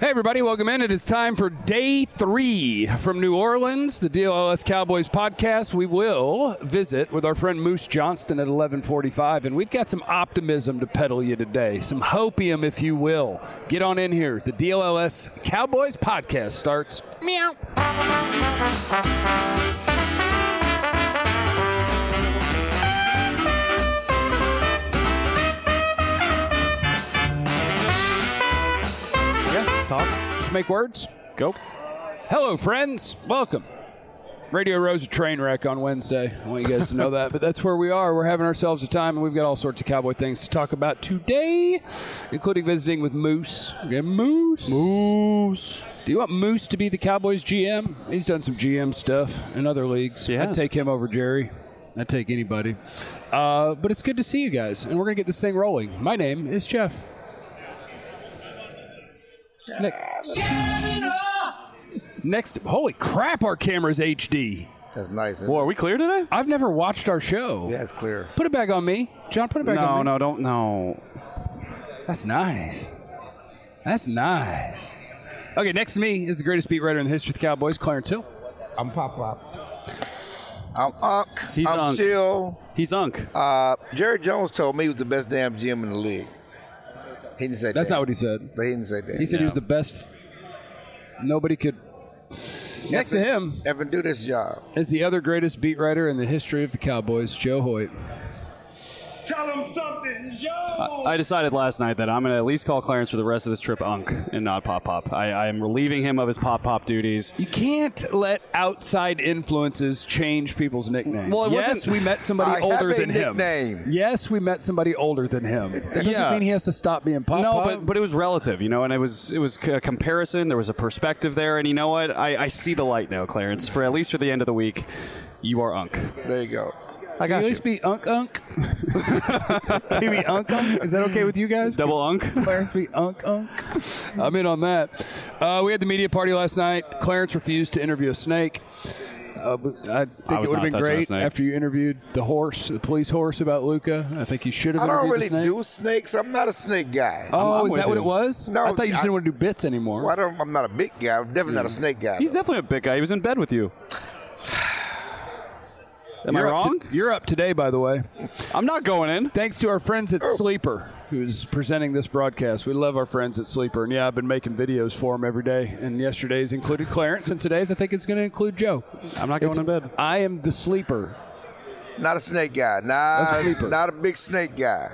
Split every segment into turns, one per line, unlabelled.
Hey, everybody, welcome in. It is time for day 3 from New Orleans, the DLLS Cowboys podcast. We will visit with our friend Moose Johnston at 11:45, and we've got some optimism to peddle you today, some hopium, if you will. Get on in here. The DLLS Cowboys podcast starts. Meow. Talk. Just make words. Go. Hello, friends. Welcome. Radio Row's a train wreck on Wednesday. I want you guys to know that, but that's where we are. We're having ourselves a time, and we've got all sorts of Cowboy things to talk about today, including visiting with Moose. Okay, Moose. Do you want Moose to be the Cowboys GM? He's done some GM stuff in other leagues. I'd take him over Jerry. I'd take anybody. But it's good to see you guys, and we're going to get this thing rolling. My name is Jeff. Next, holy crap, our camera's HD.
That's nice.
Boy, are we clear today?
I've never watched our show.
Yeah, it's clear.
Put it back on me. John, put it back on me.
No, don't. No.
That's nice. That's nice. Okay, next to me is the greatest beat writer in the history of the Cowboys, Clarence Hill.
I'm Pop. I'm Unk.
He's
I'm
Unk.
Chill.
He's Unk.
Jerry Jones told me he was the best damn GM in the league. He didn't say that.
That's not what he said.
He didn't say that.
He said he was the best. Nobody could. Next to him
Evan do this job.
is the other greatest beat writer in the history of the Cowboys, Joe Hoyt.
Tell him something, Joe!
I decided last night that I'm going to at least call Clarence for the rest of this trip Unk and not Pop. I am relieving him of his Pop duties.
You can't let outside influences change people's nicknames.
Well,
yes, we met somebody
I
older
have a
than him.
nickname.
Yes, we met somebody older than him. That doesn't
Yeah.
mean he has to stop being Pop.
No, but it was relative, and it was a comparison. There was a perspective there, and you know what? I see the light now, Clarence. For at least for the end of the week, you are Unk.
There you go.
I
Can
got
you at
you.
least be Unk? Can you be Unk? Is that okay with you guys?
Double Unk.
Clarence be Unk. I'm in on that. We had the media party last night. Clarence refused to interview a snake. I think
I
it
was
would have
not
been
touching a
great
snake.
after you interviewed the police horse about Luka. I think you should have
I don't
interviewed
really
the snake.
do snakes. I'm not a snake guy.
Oh,
I'm
is
with
that what
you.
it was?
No,
I thought you just
I-
didn't want to do bits anymore.
Well, I'm not a big guy. I'm definitely not a snake guy.
He's
though.
definitely a big guy. He was in bed with you. Am I wrong?
You're up today, by the way.
I'm not going in.
Thanks to our friends at
Oh.
Sleeper, who's presenting this broadcast. We love our friends at Sleeper. And, yeah, I've been making videos for them every day. And yesterday's included Clarence, and today's I think it's going to include Joe.
I'm not going in bed.
I am the Sleeper.
Not a snake guy.
A sleeper.
Not a big snake guy.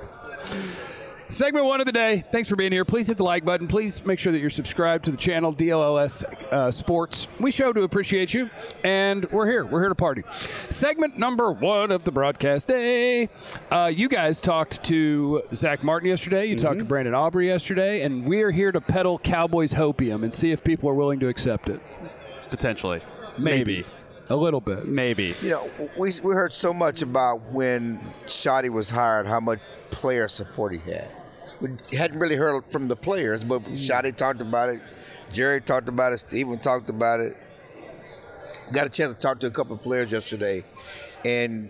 Segment 1 of the day. Thanks for being here. Please hit the like button. Please make sure that you're subscribed to the channel, DLLS Sports. We show to appreciate you, and we're here. We're here to party. Segment number 1 of the broadcast day. You guys talked to Zach Martin yesterday. You talked to Brandon Aubrey yesterday, and we are here to peddle Cowboys hopium and see if people are willing to accept it.
Potentially.
Maybe. A little bit.
Maybe.
You know, we heard so much about when Shoddy was hired, how much player support he had. We hadn't really heard from the players, but Shoddy talked about it. Jerry talked about it. Steven talked about it. Got a chance to talk to a couple of players yesterday, and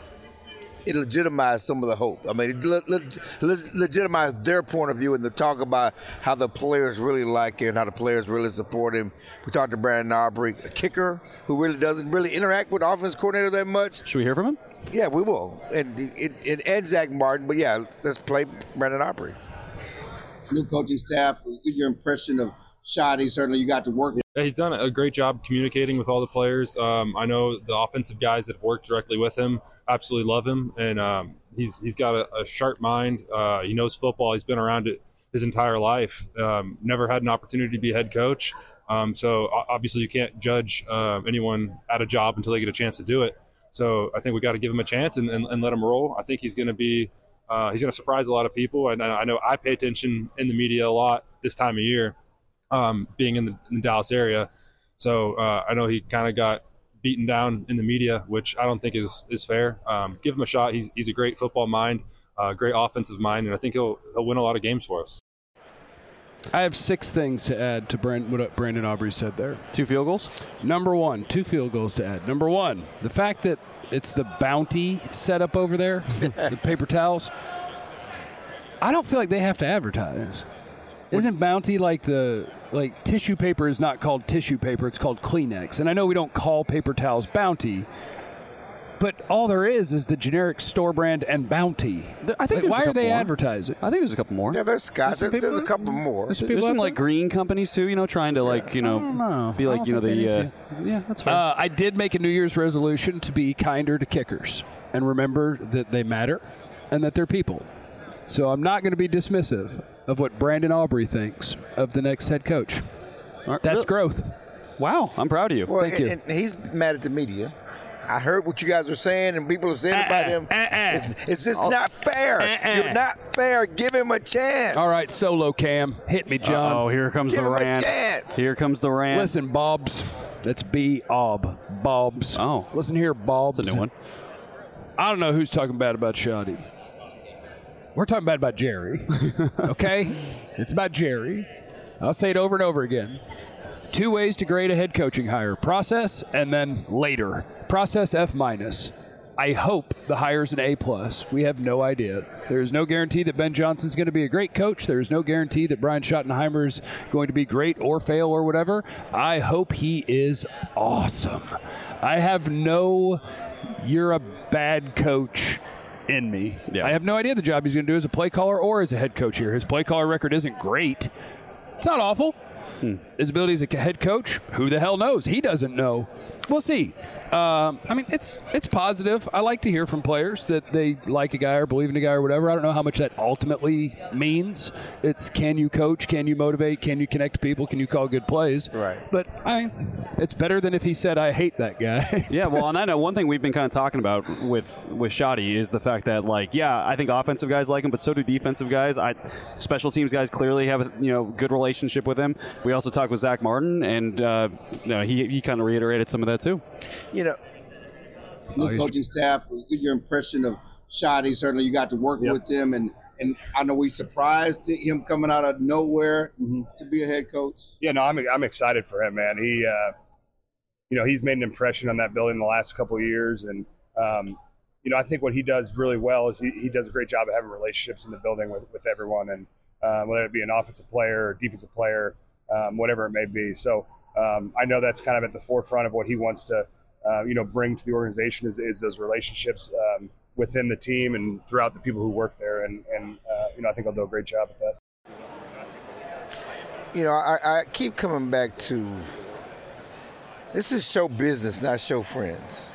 it legitimized some of the hope. I mean, it legitimized their point of view and the talk about how the players really like him, how the players really support him. We talked to Brandon Aubrey, a kicker who really doesn't really interact with the offense coordinator that much.
Should we hear from him?
Yeah, we will. And Zach Martin, but yeah, let's play Brandon Aubrey.
New coaching staff, get your impression of Shoddy. Certainly you got to work.
Yeah, he's done a great job communicating with all the players. I know the offensive guys that have worked directly with him absolutely love him, and he's got a sharp mind. He knows football. He's been around it his entire life. Never had an opportunity to be head coach. So obviously you can't judge anyone at a job until they get a chance to do it. So I think we got to give him a chance and let him roll. I think he's going to be he's going to surprise a lot of people. And I know I pay attention in the media a lot this time of year, being in the Dallas area. So I know he kind of got beaten down in the media, which I don't think is fair. Give him a shot. He's a great football mind, great offensive mind, and I think he'll win a lot of games for us.
I have 6 things to add to what Brandon Aubrey said there.
2 field goals?
Number 1, 2 field goals to add. Number 1, the fact that it's the Bounty setup over there, the paper towels. I don't feel like they have to advertise. Isn't Bounty like the like tissue paper is not called tissue paper, it's called Kleenex. And I know we don't call paper towels Bounty, but all there is the generic store brand and Bounty.
I think
Like, why
there's a
are they
couple more.
advertising?
I think there's a couple more.
Yeah, there's Scott. There's a couple more.
There's
There's
people
some
out
like
there?
green companies too, trying to like,
know.
be
I
like,
don't think they need to.
yeah, that's fair.
I did make a New Year's resolution to be kinder to kickers and remember that they matter and that they're people. So I'm not going to be dismissive of what Brandon Aubrey thinks of the next head coach. That's
Really?
growth.
Wow, I'm proud of you.
Well,
Thank you.
and he's mad at the media. I heard what you guys are saying, and people have said about him. It's just not fair. You're not fair. Give him a chance.
All right, solo cam. Hit me, John.
Oh, here comes
Give
the
him a
rant.
chance.
Here comes the rant.
Listen, Bobs. That's B-Ob. Bobs.
Oh.
Listen here, Bobs.
That's a new one.
I don't know who's talking bad about Shoddy. We're talking bad about Jerry. Okay? It's about Jerry. I'll say it over and over again. 2 ways to grade a head coaching hire: process and then later. Process F-. I hope the hire's an A+. We have no idea. There is no guarantee that Ben Johnson's going to be a great coach. There is no guarantee that Brian Schottenheimer is going to be great or fail or whatever. I hope he is awesome. I have no "you're a bad coach" in me.
Yeah.
I have no idea the job he's going to do as a play caller or as a head coach here. His play caller record isn't great. It's not awful. His ability as a head coach, who the hell knows? He doesn't know. We'll see. I mean, it's positive. I like to hear from players that they like a guy or believe in a guy or whatever. I don't know how much that ultimately means. It's, can you coach? Can you motivate? Can you connect people? Can you call good plays?
Right.
But, I mean, it's better than if he said, "I hate that guy."
Yeah, well, and I know one thing we've been kind of talking about with Shoddy is the fact that, like, yeah, I think offensive guys like him, but so do defensive guys. Special teams guys clearly have a good relationship with him. We also talked with Zach Martin, and he kind of reiterated some of that too.
New coaching staff, get your impression of Shoddy. Certainly, you got to work with him, and I know we surprised him coming out of nowhere to be a head coach.
Yeah, no, I'm excited for him, man. He, he's made an impression on that building the last couple of years, and I think what he does really well is he does a great job of having relationships in the building with everyone, and whether it be an offensive player or defensive player, whatever it may be. So I know that's kind of at the forefront of what he wants to, bring to the organization is those relationships within the team and throughout the people who work there. And I think I'll do a great job at that.
I keep coming back to, this is show business, not show friends.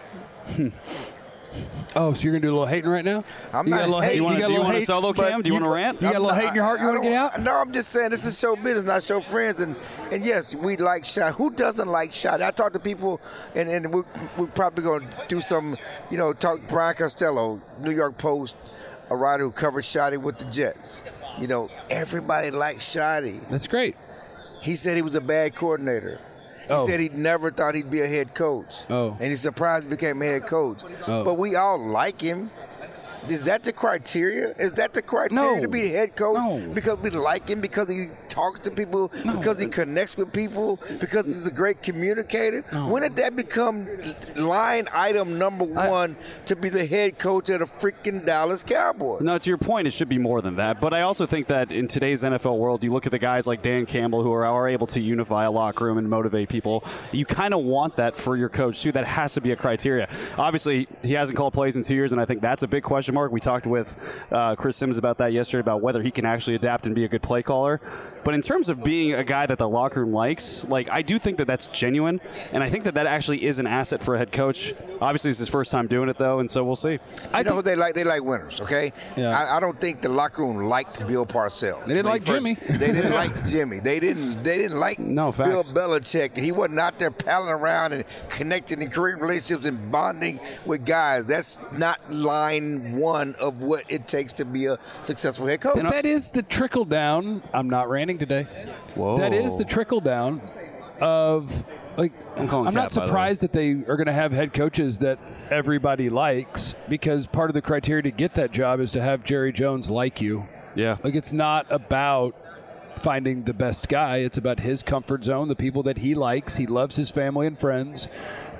Oh, so you're going to do a little hating right now?
I'm
You
not
got a little
hating.
hate?
Do you want to
hate?
solo cam? Do you want to rant?
You got a little hate in your heart you want to get out?
No, I'm just saying this is show business, not show friends. And yes, we like Shot. Who doesn't like Shot? I talk to people, and we're probably going to do some, talk Brian Costello, New York Post, a writer who covers Shotty with the Jets. Everybody likes Shotty.
That's great.
He said he was a bad coordinator. He said he never thought he'd be a head coach.
Oh.
And he's surprised he became a head coach.
Oh.
But we all like him. Is that the criteria? Is that the criteria
No.
to be a head coach?
No.
Because we like him, because he talks to people, because he connects with people, because he's a great communicator? When did that become line item number one to be the head coach of the freaking Dallas Cowboys?
No, to your point, it should be more than that. But I also think that in today's NFL world, you look at the guys like Dan Campbell who are able to unify a locker room and motivate people. You kind of want that for your coach, too. That has to be a criteria. Obviously, he hasn't called plays in 2 years, and I think that's a big question mark. We talked with Chris Sims about that yesterday, about whether he can actually adapt and be a good play caller. But in terms of being a guy that the locker room likes, I do think that that's genuine, and I think that actually is an asset for a head coach. Obviously, it's his first time doing it, though, and so we'll see.
I know who they like. They like winners, okay?
Yeah.
I don't think the locker room liked Bill Parcells.
They didn't like Jimmy.
They didn't like Jimmy. They didn't like
No,
Bill
facts.
Belichick. He wasn't out there palling around and connecting and creating relationships and bonding with guys. That's not line one of what it takes to be a successful head coach.
But that is the trickle down. I'm not ranting today.
Whoa.
That is the trickle down of,
I'm calling
I'm
Cat,
not
by the way.
surprised that they are going to have head coaches that everybody likes, because part of the criteria to get that job is to have Jerry Jones like you.
Yeah.
It's not about finding the best guy. It's about his comfort zone, the people that he likes. He loves his family and friends.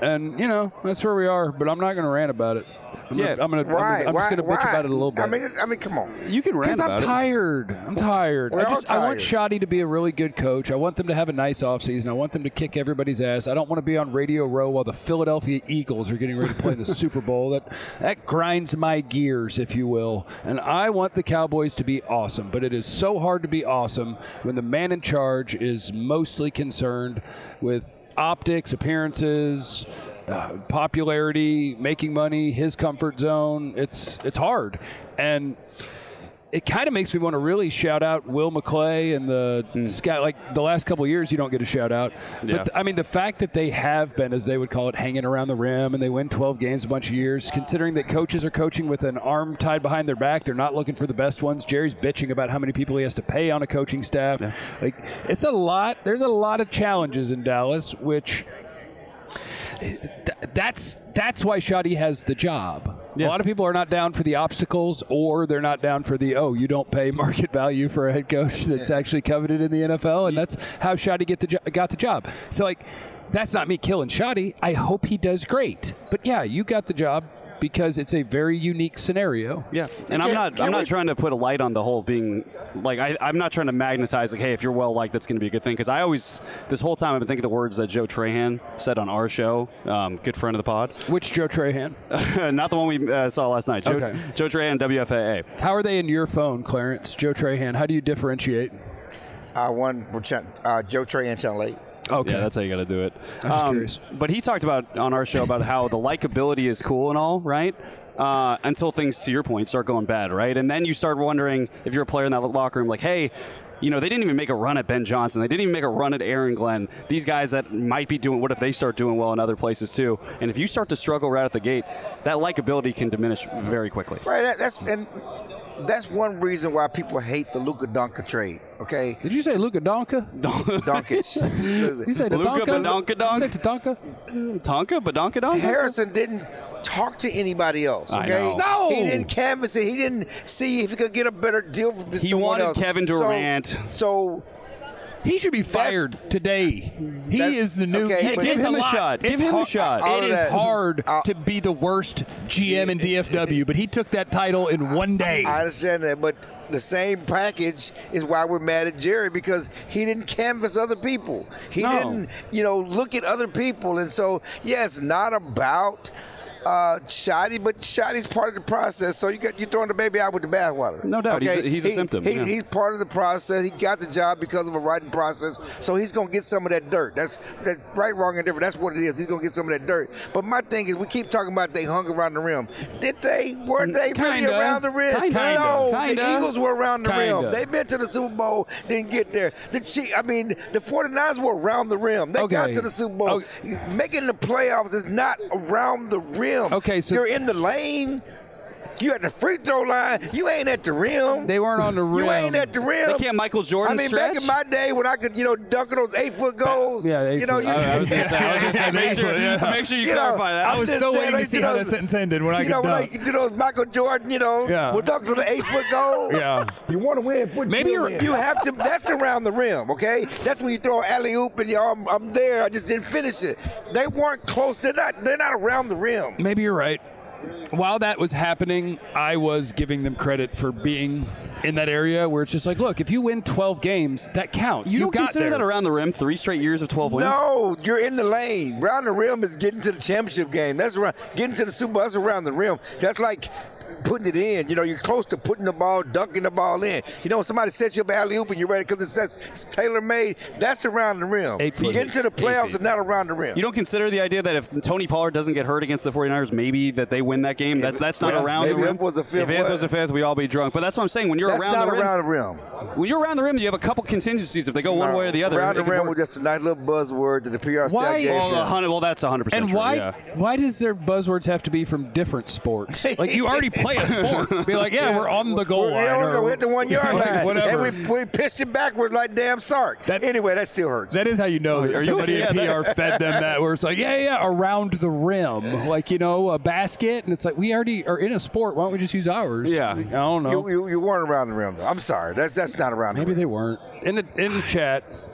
And, that's where we are, but I'm not going to rant about it. I'm just going to bitch about it a little bit.
I mean, come on.
You can rant about it.
I'm tired.
We're all
I want
tired.
Shoddy to be a really good coach. I want them to have a nice offseason. I want them to kick everybody's ass. I don't want to be on Radio Row while the Philadelphia Eagles are getting ready to play in the Super Bowl. That grinds my gears, if you will. And I want the Cowboys to be awesome, but it is so hard to be awesome when the man in charge is mostly concerned with optics, appearances, popularity, making money, his comfort zone. It's hard. And it kind of makes me want to really shout out Will McClay and the sky. Like the last couple of years, you don't get a shout out.
Yeah.
But the fact that they have been, as they would call it, hanging around the rim, and they win 12 games a bunch of years, considering that coaches are coaching with an arm tied behind their back, they're not looking for the best ones. Jerry's bitching about how many people he has to pay on a coaching staff. Yeah. It's a lot. There's a lot of challenges in Dallas, which. That's why Shoddy has the job. Yeah. A lot of people are not down for the obstacles, or they're not down for the you don't pay market value for a head coach that's actually coveted in the NFL, and that's how Shoddy got the job. So that's not me killing Shoddy. I hope he does great. But yeah, you got the job because it's a very unique scenario.
Yeah, and I'm not trying to put a light on the whole being I'm not trying to magnetize hey, if you're well liked, that's going to be a good thing. Because this whole time I've been thinking the words that Joe Trahan said on our show, good friend of the pod.
Which Joe Trahan?
Not the one we saw last night. Joe Trahan, WFAA.
How are they in your phone, Clarence? Joe Trahan. How do you differentiate?
Joe Trahan, Channel 8.
Okay.
Yeah, that's how you got to do it.
I'm just curious.
But he talked about on our show about how the likability is cool and all, right? Until things, to your point, start going bad, right? And then you start wondering if you're a player in that locker room, like, hey, they didn't even make a run at Ben Johnson. They didn't even make a run at Aaron Glenn. These guys that might be doing, what if they start doing well in other places too? And if you start to struggle right at the gate, that likability can diminish very quickly.
Right. That's one reason why people hate the Luka Doncic trade. Okay.
Did you say Luka Donka?
Doncic.
You said
Luka Badonka Donk?
You said Tatanka?
Tonka? Badonka Donk?
Harrison didn't talk to anybody else. Okay.
I know.
No.
He didn't canvass it. He didn't see if he could get a better deal from someone
wanted
else.
Kevin Durant.
So
he should be fired today. He is the new.
Okay,
Hey, give him a shot. Give him a shot.
It is hard to be the worst GM in DFW, but he took that title in one day.
I understand that, but the same package is why we're mad at Jerry, because he didn't canvass other people. He didn't, look at other people. And so, it's not about Shoddy, but Shoddy's part of the process. So you're throwing the baby out with the bathwater.
No doubt. Okay? He's a symptom.
He's part of the process. He got the job because of a writing process. So he's going to get some of that dirt. That's right, wrong, and different. That's what it is. He's going to get some of that dirt. But my thing is, we keep talking about they hung around the rim. Did they? Were they really around the rim? No. The Eagles were around the rim. They've been to the Super Bowl, didn't get there. The 49ers were around the rim. They got to the Super Bowl. Making the playoffs is not around the rim.
Okay, so
you're in the lane. You at the free throw line. You ain't at the rim.
They weren't on the rim.
You ain't at the rim.
They can't Michael Jordan stretch?
Back in my day when I could, dunk those 8-foot goals.
Yeah, 8 foot.
I was going to say, make sure you clarify that.
I was so waiting to see how that sentence ended when I could dunk.
When you do those Michael Jordan, dunks on the 8-foot goal.
Yeah.
You want to win.
Maybe
you have to. That's around the rim, okay? That's when you throw an alley-oop and I'm there. I just didn't finish it. They weren't close. They're not around the rim.
Maybe you're right. While that was happening, I was giving them credit for being in that area where it's just like, look, if you win 12 games, that counts.
You don't
got
consider
there.
that around the rim, 3 straight years of 12 wins?
No, you're in the lane. Around the rim is getting to the championship game. That's around getting to the Super Bowl. That's around the rim. That's like putting it in. You're close to putting the ball, dunking the ball in. When somebody sets you up alley-oop and you're ready because it's tailor-made, that's around the rim. Getting to the playoffs is not around the rim.
You don't consider the idea that if Tony Pollard doesn't get hurt against the 49ers, maybe that they win that game? That's not around the rim?
If it was a fifth,
we'd all be drunk. But that's what I'm saying. When you're
that's
around
not
the rim,
around the rim.
When you're around the rim, you have a couple contingencies if they go one way or the other.
Around the rim was just a nice little buzzword that the PR staff gave them.
Well, that's 100%
and
true.
Why does their buzzwords have to be from different sports? Like, you already play a sport. Be like, we're on the goal line.
We're hit the 1 yard line.
Whatever.
And we pitched it backwards like damn Sark. Anyway, that still hurts.
That is how you know that somebody in PR fed them that, where it's like, around the rim. Like, a basket. And it's like, we already are in a sport. Why don't we just use ours?
Yeah.
I don't know.
You weren't around the rim, though. I'm sorry. That's not around the rim.
Maybe they weren't. In the chat,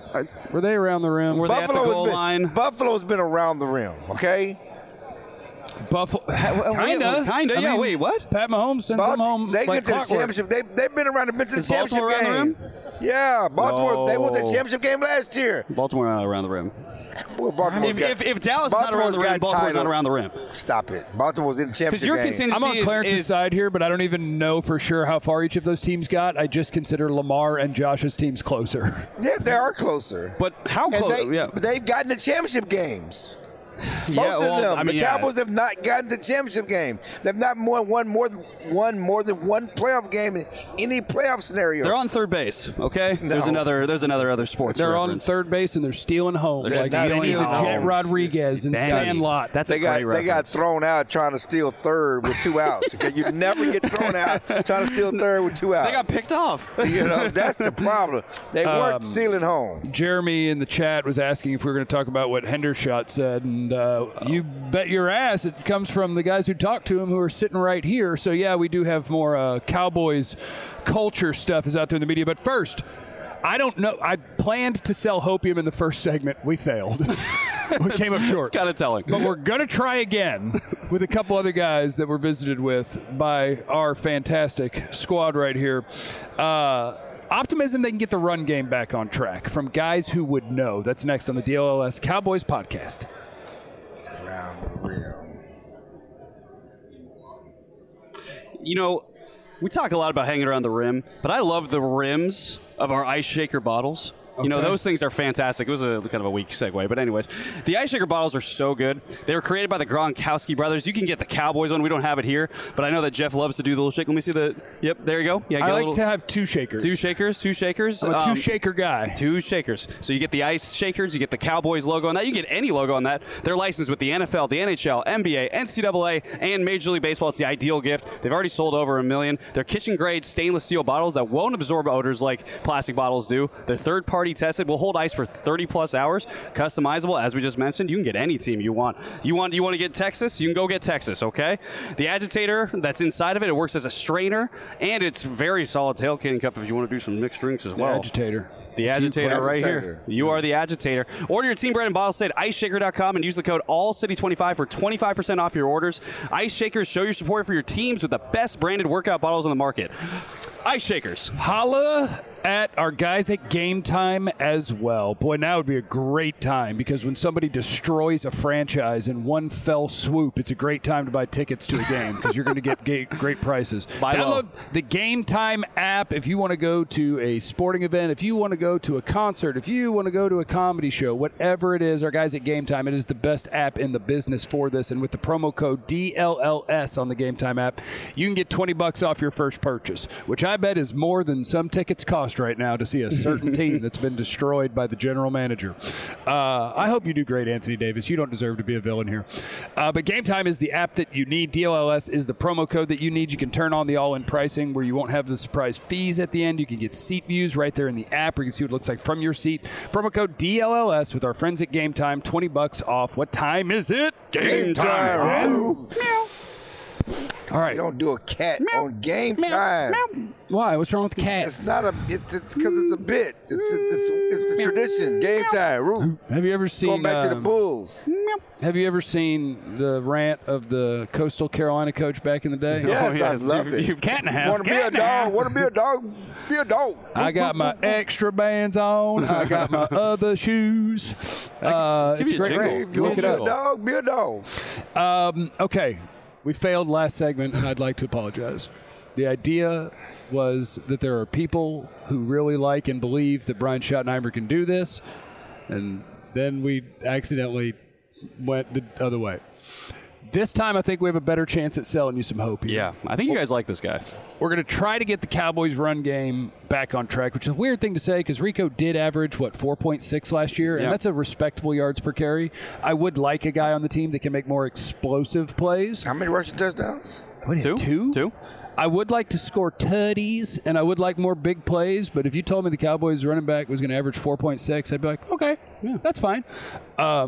Were they around the rim?
Were they at the goal line?
Buffalo's been around the rim, okay?
Buffalo, kinda.
Yeah. Wait, what?
Pat Mahomes sends them home.
They
like
get to the
clockwork.
championship. They've been around the
Is
championship
Baltimore around the
game.
rim?
Yeah, Baltimore. They won the
No.
championship game last year.
Baltimore not around the rim.
Well, Baltimore
If Dallas is not around the rim, Baltimore's not around the rim.
Stop it. Baltimore's in the championship
your
game.
contingency
I'm on Clarence's side here, but I don't even know for sure how far each of those teams got. I just consider Lamar and Josh's teams closer.
Yeah, they are closer.
But how
And
close?
they've gotten the championship games.
Yeah,
Both of them.
I mean,
the Cowboys have not gotten the championship game. They've not won more than one playoff game in any playoff scenario.
They're on third base. Okay,
No.
there's another other sports.
They're on
reference.
third base and they're stealing home.
They're
like
stealing
Vinny the
home.
Jet Rodriguez and
Dang.
Sandlot.
That's
they
a great
got they got
reference.
thrown out trying to steal third with 2 outs. Okay, you never get thrown out trying to steal third with 2 outs.
They got picked off.
You know, that's the problem. They weren't stealing home.
Jeremy in the chat was asking if we were going to talk about what Hendershot said, and you bet your ass it comes from the guys who talked to him who are sitting right here. So, yeah, we do have more Cowboys culture stuff is out there in the media. But first, I don't know. I planned to sell Hopium in the first segment. We failed. We came up short.
It's kind of telling.
But we're going to try again with a couple other guys that were visited with by our fantastic squad right here. Optimism they can get the run game back on track from guys who would know. That's next on the DLLS Cowboys podcast.
You know, we talk a lot about hanging around the rim, but I love the rims of our ice shaker bottles. You know, those things are fantastic. It was a kind of a weak segue, but anyways, the ice shaker bottles are so good. They were created by the Gronkowski brothers. You can get the Cowboys one. We don't have it here, but I know that Jeff loves to do the little shake. Let me see the. Yep, there you go. Yeah,
I like to have two shakers.
two shakers.
I'm a two-shaker guy.
Two shakers. So you get the ice shakers, you get the Cowboys logo on that, you get any logo on that. They're licensed with the NFL, the NHL, NBA, NCAA, and Major League Baseball. It's the ideal gift. They've already sold over 1 million. They're kitchen-grade stainless steel bottles that won't absorb odors like plastic bottles do. They're third-party tested, will hold ice for 30-plus hours. Customizable, as we just mentioned. You can get any team you want. You want to get Texas? You can go get Texas, okay? The agitator that's inside of it, it works as a strainer, and it's very solid tailgating cup if you want to do some mixed drinks as well.
Agitator.
The agitator right here.
Agitator.
You are the agitator. Order your team brand and bottle set at iceshaker.com and use the code ALLCITY25 for 25% off your orders. Ice Shakers, show your support for your teams with the best branded workout bottles on the market. Ice Shakers.
Holla at our guys at Game Time as well. Boy, now would be a great time because when somebody destroys a franchise in one fell swoop, it's a great time to buy tickets to a game because you're going to get great prices. Download the Game Time app if you want to go to a sporting event, if you want to go to a concert, if you want to go to a comedy show, whatever it is, our guys at Game Time, it is the best app in the business for this. And with the promo code DLLS on the Game Time app, you can get $20 off your first purchase, which I bet is more than some tickets cost right now to see a certain team that's been destroyed by the general manager. I hope you do great, Anthony Davis. You don't deserve to be a villain here. But Game Time is the app that you need. DLLS is the promo code that you need. You can turn on the all-in pricing where you won't have the surprise fees at the end. You can get seat views right there in the app where you can see what it looks like from your seat. Promo code DLLS with our friends at Game Time. $20 off. What time is it?
Game time.
All right.
You don't do a cat on Game Time.
Why? What's wrong with cats?
It's not a. It's because it's a bit. It's the tradition. Game Time. Roo.
Have you ever seen
Going back to the Bulls.
Have you ever seen the rant of the Coastal Carolina coach back in the day?
Yes, I love it.
You've cat and a half.
Want to be a dog? Want to be a dog? Be a dog.
I got my extra bands on. I got my other shoes. It's a
you a
great
jingle.
rant.
If you
Look
want
it
to be a
up.
dog, be a dog.
Okay, we failed last segment, and I'd like to apologize. The idea was that there are people who really like and believe that Brian Schottenheimer can do this, and then we accidentally went the other way. This time, I think we have a better chance at selling you some hope here.
Yeah, I think you guys like this guy.
We're going to try to get the Cowboys' run game back on track, which is a weird thing to say because Rico did average, 4.6 last year, and
Yeah.
that's a respectable yards per carry. I would like a guy on the team that can make more explosive plays.
How many rushing touchdowns?
What, two? I would like to score tutties, and I would like more big plays, but if you told me the Cowboys running back was going to average 4.6, I'd be like, okay, yeah, that's fine.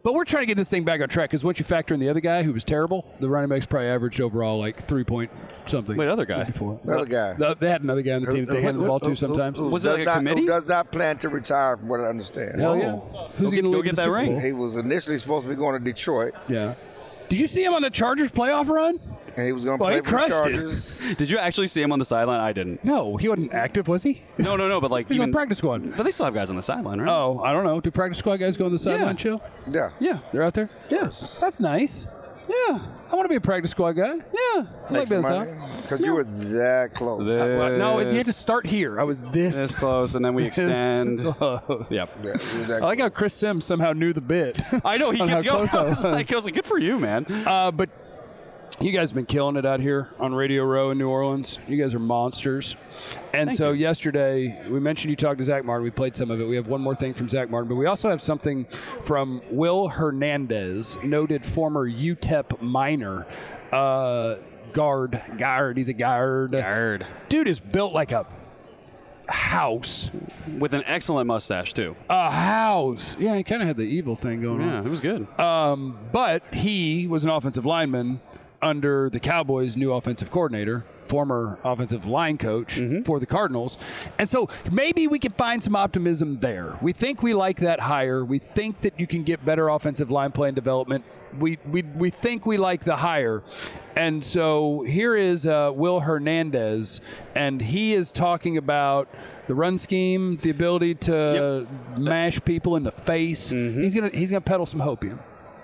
But we're trying to get this thing back on track because once you factor in the other guy who was terrible, the running backs probably averaged overall like 3 point something.
Wait, other guy?
Before.
Another guy.
They had another guy on the team that they handed the ball to sometimes.
Was it like a committee?
Who does not plan to retire, from what I understand.
Hell yeah. Who's going to
go
lead
get
the
that
Super
ring.
Bowl?
He was initially supposed to be going to Detroit,
Yeah. Did you see him on the Chargers playoff run?
and he was going to
Well,
play
he
for the
crushed it.
Chargers.
Did you actually see him on the sideline? I didn't.
No, he wasn't active, was he?
No, but like
He was on practice squad.
But they still have guys on the sideline, right?
Oh, I don't know. Do practice squad guys go on the sideline chill?
Yeah.
yeah,
They're out there?
yeah,
That's nice.
yeah,
I want to be a practice squad guy.
yeah.
I like that sound.
Because you were that close.
No, you had to start here. I was this
This close, and then we extend.
close.
Yep.
Yeah, you were that
I like how Chris Sims somehow knew the bit.
I know he
On
kept
how
going.
close I
I was like, good for you, man.
But you guys have been killing it out here on Radio Row in New Orleans. You guys are monsters. And so yesterday, we mentioned you talked to Zach Martin. We played some of it. We have one more thing from Zach Martin, but we also have something from Will Hernandez, noted former UTEP minor. Guard. He's a guard. Dude is built like a house.
With an excellent mustache too.
A house. Yeah, he kind of had the evil thing going on.
Yeah, it was good.
But he was an offensive lineman under the Cowboys' new offensive coordinator, former offensive line coach for the Cardinals. And so maybe we can find some optimism there. We think we like that hire. We think that you can get better offensive line play and development. We think we like the hire. And so here is Will Hernandez, and he is talking about the run scheme, the ability to mash people in the face. He's gonna peddle some hopium.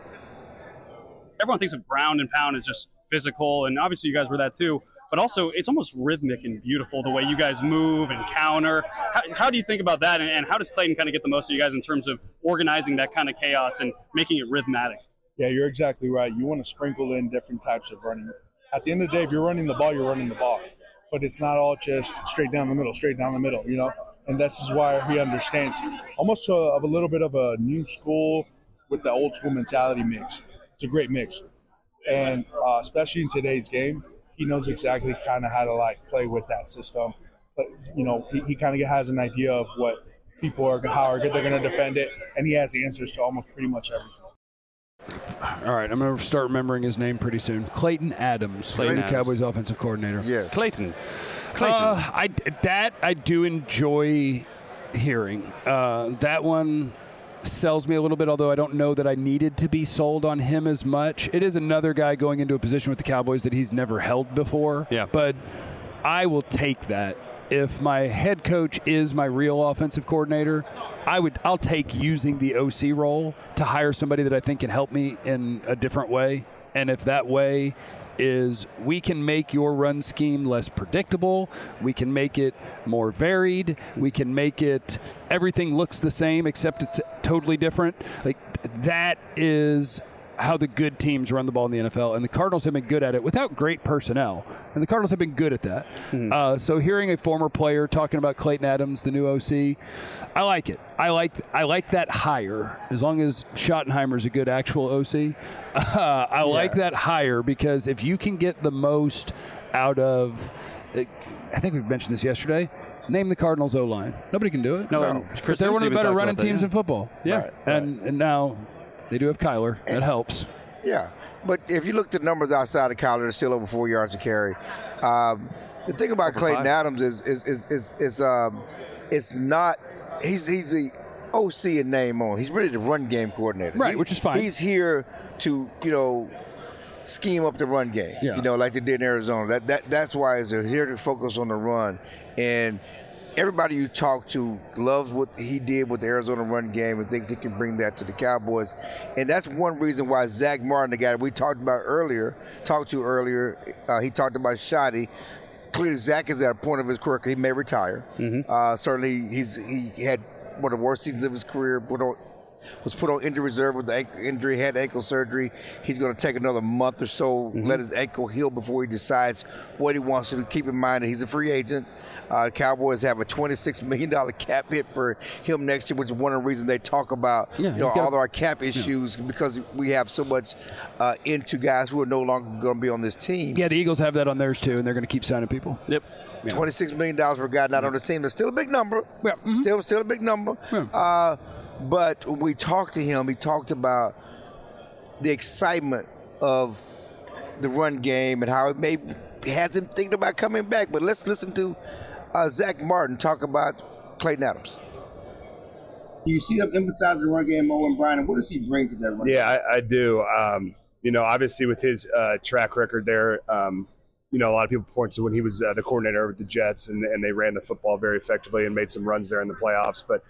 Everyone thinks of ground and pound as just physical, and obviously you guys were that too. But also, it's almost rhythmic and beautiful the way you guys move and counter. How do you think about that, and how does Clayton kind of get the most of you guys in terms of organizing that kind of chaos and making it rhythmatic?
Yeah, you're exactly right. You want to sprinkle in different types of running. At the end of the day, if you're running the ball, you're running the ball. But it's not all just straight down the middle, you know? And this is why he understands almost of a little bit of a new school with the old school mentality mix. It's a great mix. And especially in today's game, he knows exactly kind of how to like play with that system. But, you know, he kind of has an idea of what people are, how they're going to defend it. And he has the answers to almost pretty much everything.
All right, I'm going to start remembering his name pretty soon. Clayton Adams, the Cowboys offensive coordinator.
Yes.
Clayton.
I do enjoy hearing. That one sells me a little bit, although I don't know that I needed to be sold on him as much. It is another guy going into a position with the Cowboys that he's never held before.
Yeah.
But I will take that. If my head coach is my real offensive coordinator, I'll take using the OC role to hire somebody that I think can help me in a different way. And if that way is we can make your run scheme less predictable, we can make it more varied, we can make it everything looks the same except it's totally different. Like that is how the good teams run the ball in the NFL, and the Cardinals have been good at it without great personnel, and the Cardinals have been good at that. So hearing a former player talking about Clayton Adams, the new OC, I like it. I like that hire, as long as Schottenheimer's a good actual OC. I like that hire because if you can get the most out of, I think we mentioned this yesterday, name the Cardinals O-line. Nobody can do it.
No.
But they're one of the better running teams in football.
Yeah.
Right.
And now they do have Kyler. That helps.
Yeah, but if you look at the numbers outside of Kyler, they're still over 4 yards to carry. The thing about Clayton Adams is it's not he's the OC in name only. He's really the run game coordinator,
Right, which is fine.
He's here to scheme up the run game, like they did in Arizona. That's why they're here to focus on the run. And everybody you talk to loves what he did with the Arizona run game and thinks he can bring that to the Cowboys. And that's one reason why Zach Martin, the guy that we talked to earlier, he talked about Shotty. Clearly, Zach is at a point of his career he may retire. Certainly, he had one of the worst seasons of his career, was put on injury reserve with the ankle injury, had ankle surgery. He's going to take another month or so, let his ankle heal before he decides what he wants to do. Keep in mind that he's a free agent. The Cowboys have a $26 million cap hit for him next year, which is one of the reasons they talk about all of our cap issues because we have so much into guys who are no longer going to be on this team.
Yeah, the Eagles have that on theirs too, and they're going to keep signing people.
Yep.
Yeah.
$26 million for a guy not on the team. That's still a big number.
Yeah.
Still a big number.
Yeah.
But when we talked to him, he talked about the excitement of the run game and how it has him thinking about coming back. But let's listen to Zach Martin talk about Clayton Adams.
You see them emphasize the run game more and Brian. What does he bring to that run game?
Yeah, I do. Obviously with his track record there, a lot of people point to when he was the coordinator with the Jets and they ran the football very effectively and made some runs there in the playoffs. But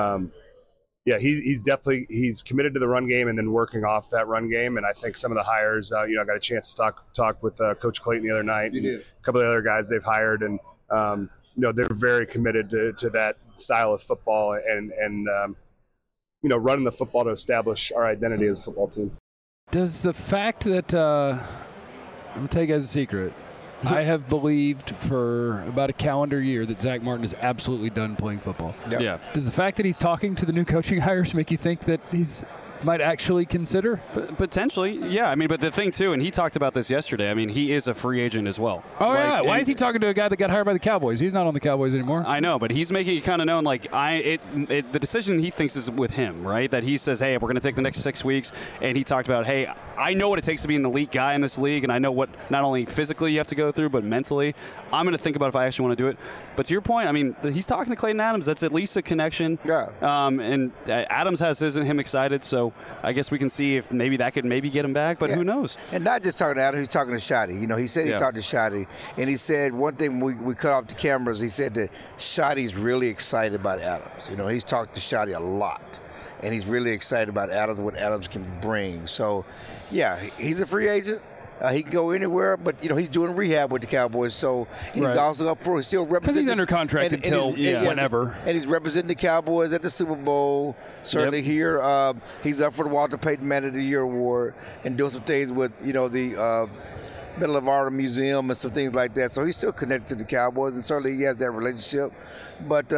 he's committed to the run game and then working off that run game. And I think some of the hires, I got a chance to talk with Coach Clayton the other night. And a couple of the other guys they've hired, and they're very committed to that style of football and running the football to establish our identity as a football team.
Does the fact that I'm going to tell you guys a secret. I have believed for about a calendar year that Zach Martin is absolutely done playing football.
Yep.
Yeah.
Does the fact that he's talking to the new coaching hires make you think that he's might actually consider?
Potentially, yeah. I mean, but the thing, too, and he talked about this yesterday, I mean, he is a free agent as well.
Oh, yeah. Why is he talking to a guy that got hired by the Cowboys? He's not on the Cowboys anymore.
I know, but he's making it kind of known, the decision he thinks is with him, right? That he says, hey, we're going to take the next 6 weeks, and he talked about, hey, I know what it takes to be an elite guy in this league, and I know what not only physically you have to go through, but mentally. I'm going to think about if I actually want to do it. But to your point, I mean, he's talking to Clayton Adams. That's at least a connection.
Yeah.
And Adams has him excited, so I guess we can see if maybe that could get him back, but who knows?
And not just talking to Adams, he's talking to Shotty. He said he talked to Shotty, and he said one thing we cut off the cameras, he said that Shotty's really excited about Adams. He's talked to Shotty a lot, and he's really excited about Adams, what Adams can bring. So, yeah, he's a free agent. He can go anywhere, but he's doing rehab with the Cowboys, so he's also up for. He's still representing.
Because he's under contract until whenever.
And he's representing the Cowboys at the Super Bowl. Certainly here, he's up for the Walter Payton Man of the Year award and doing some things with the Medal of Honor Museum and some things like that. So he's still connected to the Cowboys, and certainly he has that relationship. But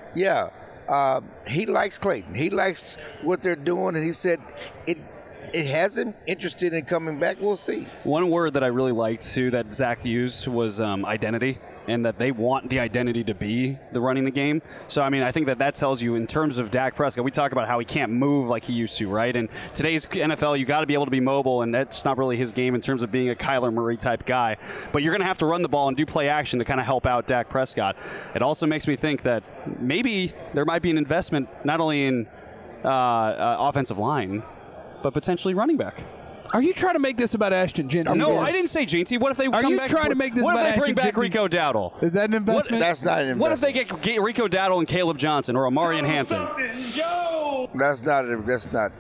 he likes Clayton. He likes what they're doing, and he said it has him interested in coming back. We'll see.
One word that I really liked, too, that Zach used was identity, and that they want the identity to be the running the game. So, I mean, I think that tells you in terms of Dak Prescott, we talk about how he can't move like he used to, right? And today's NFL, you got to be able to be mobile, and that's not really his game in terms of being a Kyler Murray type guy. But you're going to have to run the ball and do play action to kind of help out Dak Prescott. It also makes me think that maybe there might be an investment not only in offensive line, but potentially running back.
Are you trying to make this about Ashton Jeanty?
No, I didn't say Jeanty. What if they come back?
Trying to make this
what
about
if they bring
Ashton
back
Jeanty?
Rico Dowdle?
Is that an investment?
That's not an investment.
What if they get Rico Dowdle and Caleb Johnson or Amarian Hampton?
That's not.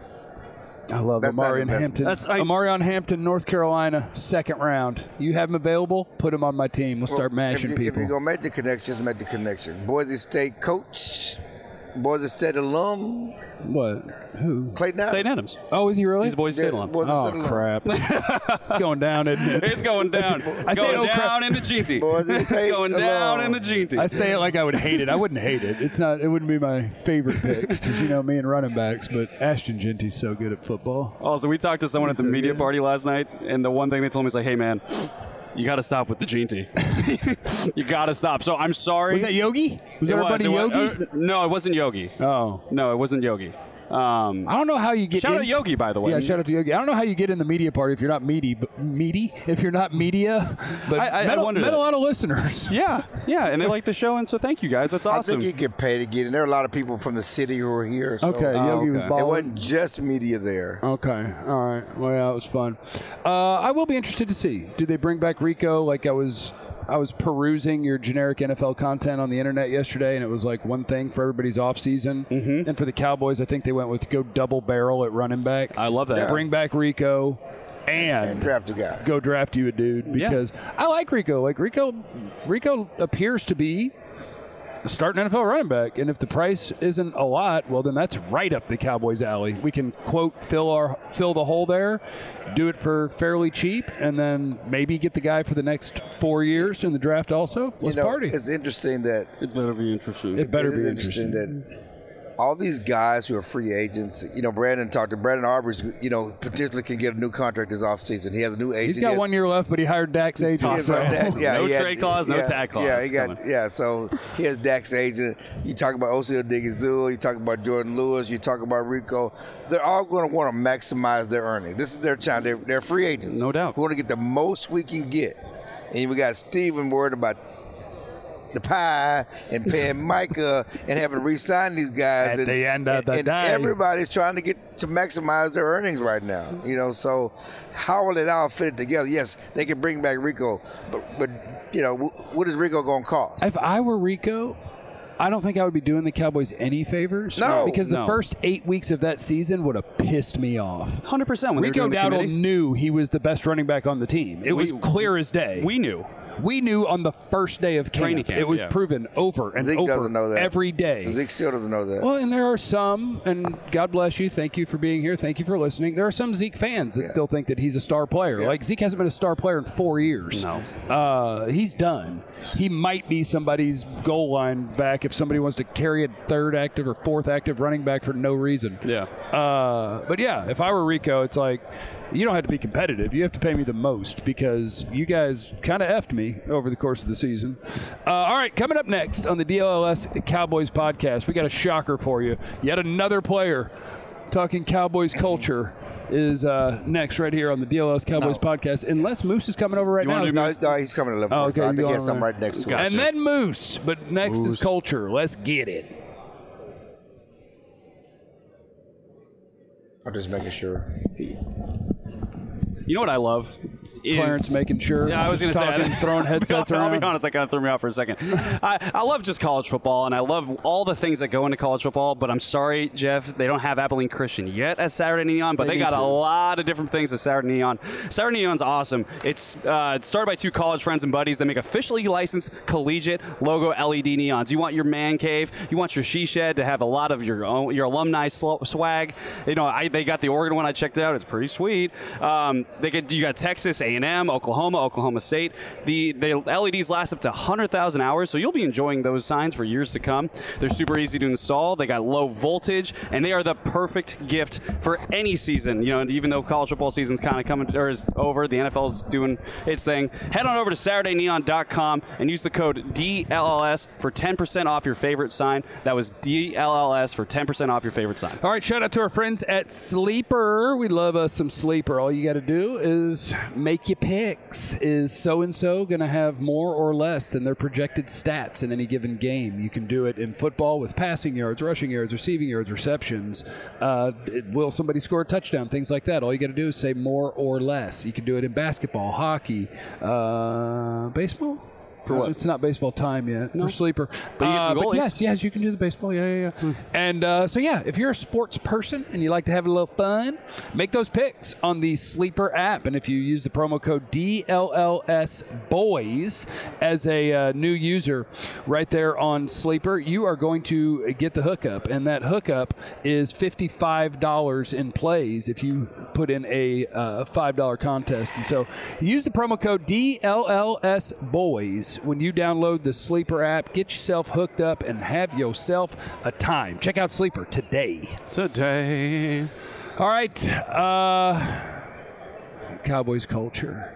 I love Amarian Hampton. Amarian Hampton, North Carolina, second round. You have him available? Put him on my team. We'll start mashing people.
If you're going to make the connections, make the connection. Boise State coach, Boise State alum.
What? Who?
Clayton
Adams.
Oh, is he really?
He's a Boise State alum.
Oh, crap. It's going down, isn't it?
It's going down. It's going down in the Jeanty. It's going down in the Jeanty.
I say it like I would hate it. I wouldn't hate it. It wouldn't be my favorite pick because me and running backs, but Ashton Jeanty's so good at football.
Also, we talked to someone at the media party last night, and the one thing they told me is like, hey, man, you got to stop with the Jeanty. You got to stop. So I'm sorry.
Was that Yogi? Was everybody Yogi?
No, it wasn't Yogi.
Oh.
No, it wasn't Yogi.
I don't know how you get.
Shout out Yogi, by the way.
Yeah, shout out to Yogi. I don't know how you get in the media party if you're not meaty. If you're not media, but I met a lot of listeners.
Yeah, and they like the show, and so thank you guys. That's awesome.
I think you get paid to get in. There are a lot of people from the city who are here. So.
Okay, Yogi was balling.
It wasn't just media there.
Okay, all right. Well, yeah, it was fun. I will be interested to see. Do they bring back Rico? Like I was perusing your generic NFL content on the internet yesterday, and it was like one thing for everybody's offseason. Mm-hmm. And for the Cowboys, I think they went with go double barrel at running back.
I love that.
Yeah. Bring back Rico and
draft a guy.
Go draft you a dude because I like Rico. Like Rico appears to be starting NFL running back, and if the price isn't a lot, well, then that's right up the Cowboys' alley. We can quote fill the hole there, do it for fairly cheap, and then maybe get the guy for the next 4 years in the draft. Also, let's party.
It's interesting that
it better be interesting.
It better be
interesting that all these guys who are free agents, Brandon Aubrey's, potentially can get a new contract this offseason. He has a new agent.
He's got 1 year left, but he hired Dak's agent.
No trade clause, no tag clause.
So he has Dak's agent. You talk about Oseo Digizua, you talk about Jordan Lewis, you talk about Rico. They're all going to want to maximize their earnings. This is their chance. They're free agents.
No doubt.
We want to get the most we can get. And we got Steven worried about the pie and paying Micah and having to re-sign these guys
at the end of the day.
Everybody's trying to get to maximize their earnings right now. So how will it all fit together? Yes, they can bring back Rico, but what is Rico going to cost?
If I were Rico, I don't think I would be doing the Cowboys any favors.
No.
Because the first 8 weeks of that season would have pissed me off.
100%.
Rico Dowdle knew he was the best running back on the team. It was clear as day.
We knew.
We knew on the first day of
training camp.
It was proven over and
Zeke
over
doesn't know that.
every day.
Zeke still doesn't know that.
Well, and there are some, and God bless you. Thank you for being here. Thank you for listening. There are some Zeke fans that still think that he's a star player.
Yeah.
Like, Zeke hasn't been a star player in 4 years.
No.
He's done. He might be somebody's goal line back if somebody wants to carry a third active or fourth active running back for no reason.
Yeah.
But yeah, if I were Rico, it's like, you don't have to be competitive. You have to pay me the most because you guys kind of effed me over the course of the season. All right, coming up next on the DLLS Cowboys podcast, we got a shocker for you. Yet another player talking Cowboys culture is next right here on the DLLS Cowboys podcast. Unless Moose is coming over right now.
No, he's coming to 11.
Oh, okay,
I think he has something right next to him.
And then Moose, but next is culture. Let's get it.
I'm just making sure.
You know what I love?
Clarence making sure.
Yeah, I was going to say.
Throwing headsets around.
I'll be honest, that kind of threw me out for a second. I love just college football, and I love all the things that go into college football, but I'm sorry, Jeff, they don't have Abilene Christian yet at Saturday Neon, but they got a lot of different things at Saturday Neon. Saturday Neon's awesome. It's started by two college friends and buddies that make officially licensed collegiate logo LED neons. You want your man cave, you want your she shed to have a lot of your alumni swag. They got the Oregon one. I checked it out. It's pretty sweet. You got Texas A&M, Oklahoma State. The LEDs last up to 100,000 hours, so you'll be enjoying those signs for years to come. They're super easy to install. They got low voltage, and they are the perfect gift for any season. Even though college football season's kind of coming or is over, the NFL is doing its thing. Head on over to SaturdayNeon.com and use the code DLLS for 10% off your favorite sign. That was DLLS for 10% off your favorite sign.
All right, shout out to our friends at Sleeper. We love us some Sleeper. All you got to do is make your picks. Is so-and-so going to have more or less than their projected stats in any given game? You can do it in football with passing yards, rushing yards, receiving yards, receptions. Will somebody score a touchdown? Things like that. All you got to do is say more or less. You can do it in basketball, hockey, baseball. For what? It's not baseball time yet for Sleeper.
But you get some goalies.
Yes, you can do the baseball. Yeah. And if you're a sports person and you like to have a little fun, make those picks on the Sleeper app. And if you use the promo code DLLSBOYS as a new user right there on Sleeper, you are going to get the hookup. And that hookup is $55 in plays if you put in a $5 contest. And so use the promo code DLLSBOYS when you download the Sleeper app. Get yourself hooked up and have yourself a time. Check out Sleeper today. All right. Cowboys culture.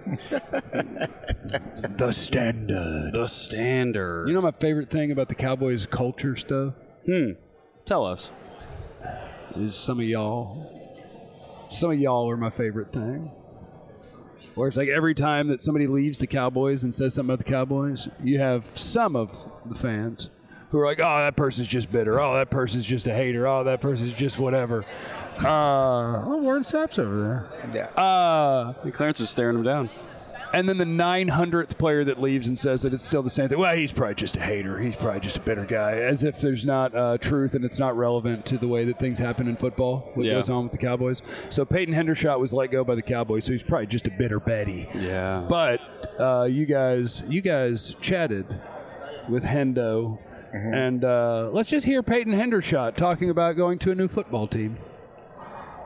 The standard. You know my favorite thing about the Cowboys culture stuff?
Tell us.
Is some of y'all. Some of y'all are my favorite thing. Where it's like every time that somebody leaves the Cowboys and says something about the Cowboys, you have some of the fans who are like, oh, that person's just bitter. Oh, that person's just a hater. Oh, that person's just whatever. Warren Sapp's over there.
Yeah.
Clarence is staring him down.
And then the 900th player that leaves and says that it's still the same thing. Well, he's probably just a hater. He's probably just a bitter guy. As if there's not truth and it's not relevant to the way that things happen in football, what goes on with the Cowboys. So Peyton Hendershot was let go by the Cowboys, so he's probably just a bitter Betty.
Yeah.
But you guys chatted with Hendo. And let's just hear Peyton Hendershot talking about going to a new football team.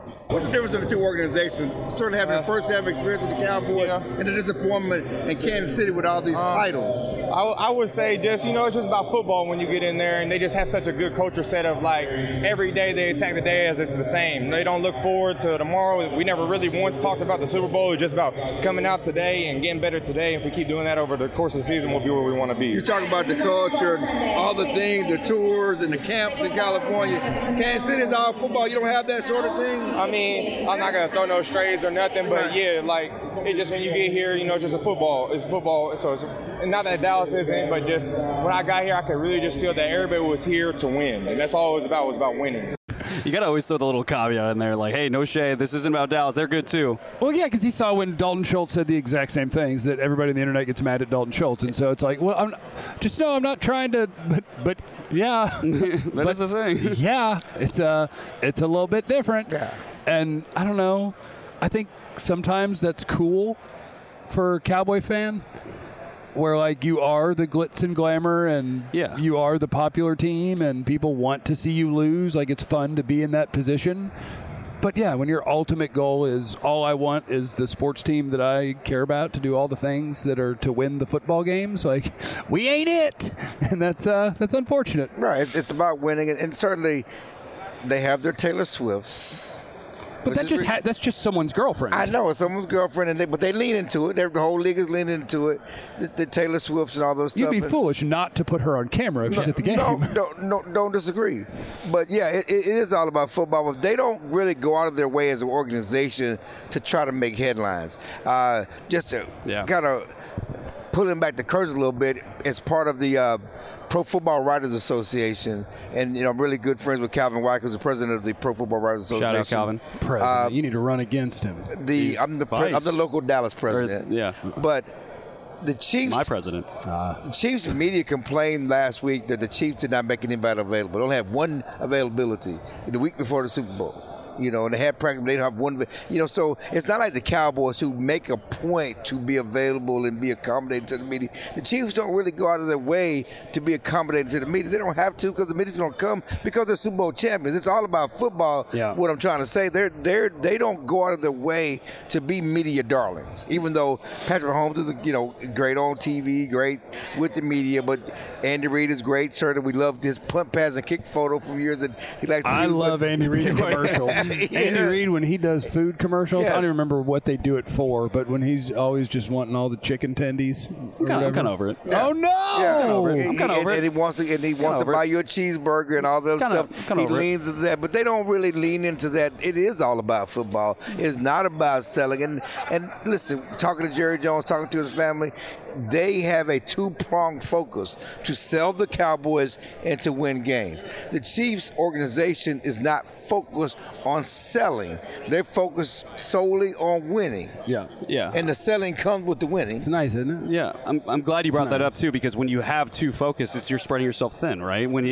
What's the difference in the two organizations? Certainly having your first-hand experience with the Cowboys and the disappointment in Kansas City with all these titles.
I would say just, it's just about football when you get in there, and they just have such a good culture set of, like, every day they attack the day as it's the same. They don't look forward to tomorrow. We never really once talked about the Super Bowl. It's just about coming out today and getting better today. If we keep doing that over the course of the season, we'll be where we want to be.
You talk about the culture, all the things, the tours and the camps in California. Kansas City is all football. You don't have that sort of thing?
I mean, I'm not going to throw no strays or nothing, but yeah, like, it just when you get here, just a football. It's football. So it's not that Dallas isn't, but just when I got here, I could really just feel that everybody was here to win. And that's all it was about winning.
You got to always throw the little caveat in there, like, hey, no shade. This isn't about Dallas. They're good, too.
Well, yeah, because he saw when Dalton Schultz said the exact same things, that everybody on the internet gets mad at Dalton Schultz. And so it's like, well, I'm not trying to, but yeah.
That is the thing.
Yeah, it's a little bit different. Yeah. And I don't know. I think sometimes that's cool for a Cowboy fan, where like you are the glitz and glamour and you are the popular team and people want to see you lose. Like, it's fun to be in that position. But yeah, when your ultimate goal is all I want is the sports team that I care about to do all the things that are to win the football games, like, we ain't it. And that's unfortunate.
Right. It's about winning. And certainly they have their Taylor Swifts.
But that's just someone's girlfriend.
I know, it's someone's girlfriend, but they lean into it. The whole league is leaning into it. The Taylor Swifts and all those stuff.
You'd be foolish not to put her on camera if she's at the game.
No, don't disagree. But yeah, it is all about football. But they don't really go out of their way as an organization to try to make headlines. Just to kind of pulling back the curtain a little bit, as part of the Pro Football Writers Association, and I'm really good friends with Calvin White, who's the president of the Pro Football Writers Association.
Shout out, Calvin.
President, you need to run against him.
I'm the local Dallas president. But the Chiefs,
my president.
Chiefs media complained last week that the Chiefs did not make anybody available. They only had one availability the week before the Super Bowl. And they had practice, but they don't have one. So it's not like the Cowboys who make a point to be available and be accommodating to the media. The Chiefs don't really go out of their way to be accommodating to the media. They don't have to, because the media's going to come because they're Super Bowl champions. It's all about football. Yeah. What I'm trying to say, they don't go out of their way to be media darlings. Even though Patrick Mahomes is great on TV, great with the media, but Andy Reid is great. Certainly, we love this punt, pass, and kick photo from years that he likes.
I love Andy Reid's commercials. Andy Reid, when he does food commercials, I don't even remember what they do it for, but when he's always just wanting all the chicken tendies.
I'm kind of over it.
Yeah. Oh no!
Yeah, I'm over it.
I'm kind of over it.
And he wants to buy you a cheeseburger and all that stuff. He leans into that, but they don't really lean into that. It is all about football. It's not about selling. And listen, talking to Jerry Jones, talking to his family, they have a two-pronged focus to sell the Cowboys and to win games. The Chiefs organization is not focused on selling. They're focused solely on winning.
Yeah.
And the selling comes with the winning.
It's nice, isn't it?
Yeah. I'm glad you brought that up, too, because when you have two focuses, you're spreading yourself thin, right? What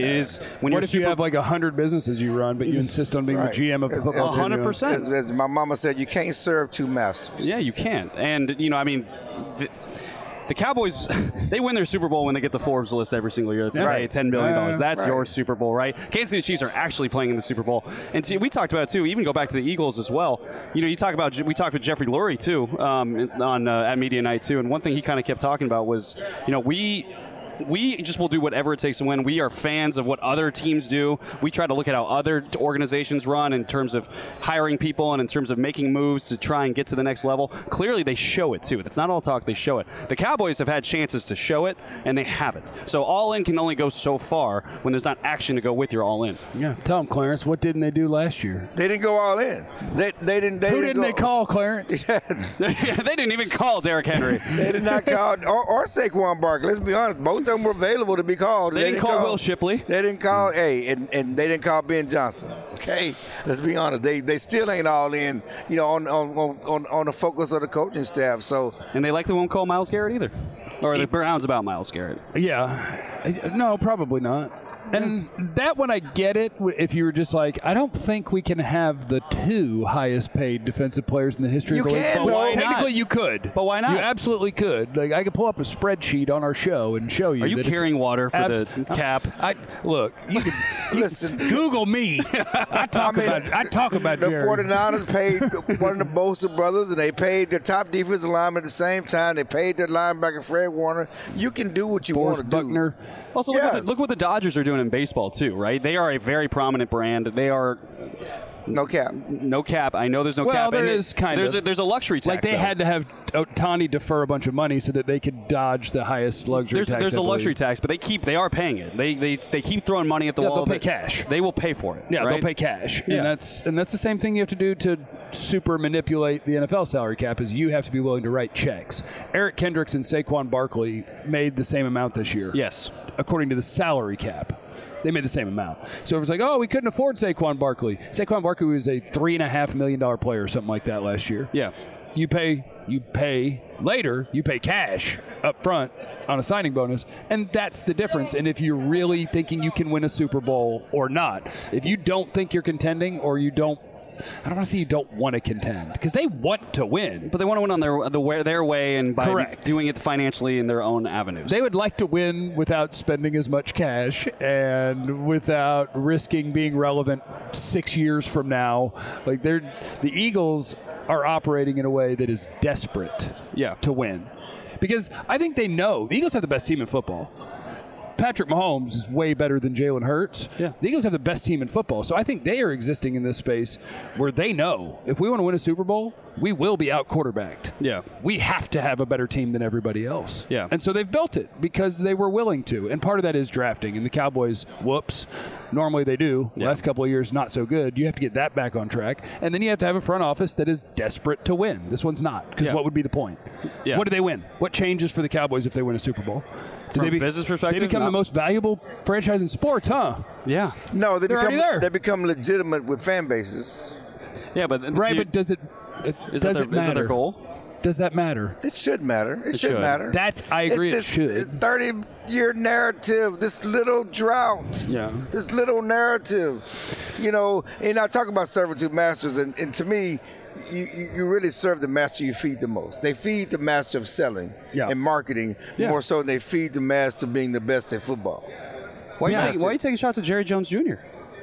if
you have like 100 businesses you run, but you insist on being the GM of the football team?
100%.
As my mama said, you can't serve two masters.
Yeah, you can't. And, the Cowboys, they win their Super Bowl when they get the Forbes list every single year. That's $10 billion. That's your Super Bowl, right? Kansas City Chiefs are actually playing in the Super Bowl. And we talked about it, too. Even go back to the Eagles as well. We talked with Jeffrey Lurie, too, at Media Night, too. And one thing he kind of kept talking about was, we just will do whatever it takes to win. We are fans of what other teams do. We try to look at how other organizations run in terms of hiring people and in terms of making moves to try and get to the next level. Clearly, they show it, too. It's not all talk. They show it. The Cowboys have had chances to show it, and they haven't. So all-in can only go so far when there's not action to go with your all-in.
Yeah. Tell them, Clarence, what didn't they do last year?
They didn't go all in. They didn't.
Who didn't they call, Clarence?
They didn't even call Derrick Henry.
They did not call or Saquon Barkley. Let's be honest. Both of them were available to be called.
They didn't call Will Shipley.
They didn't call and they didn't call Ben Johnson. Okay, let's be honest. They still ain't all in. On the focus of the coaching staff. So
and they likely won't call Myles Garrett either, or the Browns about Myles Garrett.
Yeah, no, probably not. And that one I get it if you were just like, I don't think we can have the 2 highest paid defensive players in the history
You
of the league.
can,
But
though.
technically, you could.
But why not?
You absolutely could. Like, I could pull up a spreadsheet on our show and show you.
Are you
that it's
carrying water for the cap?
Look, you can
Listen,
Google me. I talk about
the
Jerry.
49ers paid one of the Bosa brothers, and they paid their top defensive lineman at the same time. They paid their linebacker Fred Warner. You can do what you want to
Buckner.
do.
Also,
Yeah.
look what the Dodgers are doing in baseball too, right? They are a very prominent brand. They are
No cap.
no cap. I know there's no
Well,
cap.
there
and
is kind
there's
of.
there's a luxury tax.
Like they
though.
had to have Ohtani defer a bunch of money so that they could dodge the highest luxury tax.
There's
I
a luxury
believe.
tax, but they are paying it. They keep throwing money at the
Yeah,
wall.
they'll pay cash.
They will pay for it.
Yeah,
right?
they'll pay cash,
Yeah.
and that's the same thing you have to do to super manipulate the NFL salary cap. Is you have to be willing to write checks. Eric Kendricks and Saquon Barkley made the same amount this year.
Yes.
According to the salary cap. They made the same amount. So it was like, oh, we couldn't afford Saquon Barkley. Saquon Barkley was a $3.5 million player or something like that last year.
Yeah.
You pay later, you pay cash up front on a signing bonus, and that's the difference. And if you're really thinking you can win a Super Bowl or not, if you don't think you're contending or you don't, I don't want to say you don't want to contend because they want to win.
But they want to win on their way and by
Correct.
doing it financially in their own avenues.
They would like to win without spending as much cash and without risking being relevant 6 years from now. Like the Eagles are operating in a way that is desperate to win. Because I think they know the Eagles have the best team in football. Patrick Mahomes is way better than Jalen Hurts.
Yeah.
The Eagles have the best team in football. So I think they are existing in this space where they know if we want to win a Super Bowl, we will be out quarterbacked.
Yeah.
We have to have a better team than everybody else.
Yeah.
And so they've built it because they were willing to. And part of that is drafting. And the Cowboys, whoops, normally they do.
Yeah.
Last couple of years, not so good. You have to get that back on track. And then you have to have a front office that is desperate to win. This one's not. Because what would be the point?
Yeah.
What do they win? What changes for the Cowboys if they win a Super Bowl?
From a business perspective,
They become the most valuable franchise in sports, huh?
Yeah.
No,
They're already there.
they become legitimate with fan bases.
Yeah, but
Right, but does it
is
does
that
it
their
matter?
goal?
Does that matter?
It should matter. It should
should.
matter.
I agree.
It's
It
this
should.
30-year narrative, this little drought,
Yeah.
this little narrative, and I talk about servitude masters, and to me, you really serve the master you feed the most. They feed the master of selling and marketing more so than they feed the master of being the best at football.
Why are you taking shots at Jerry Jones Jr.?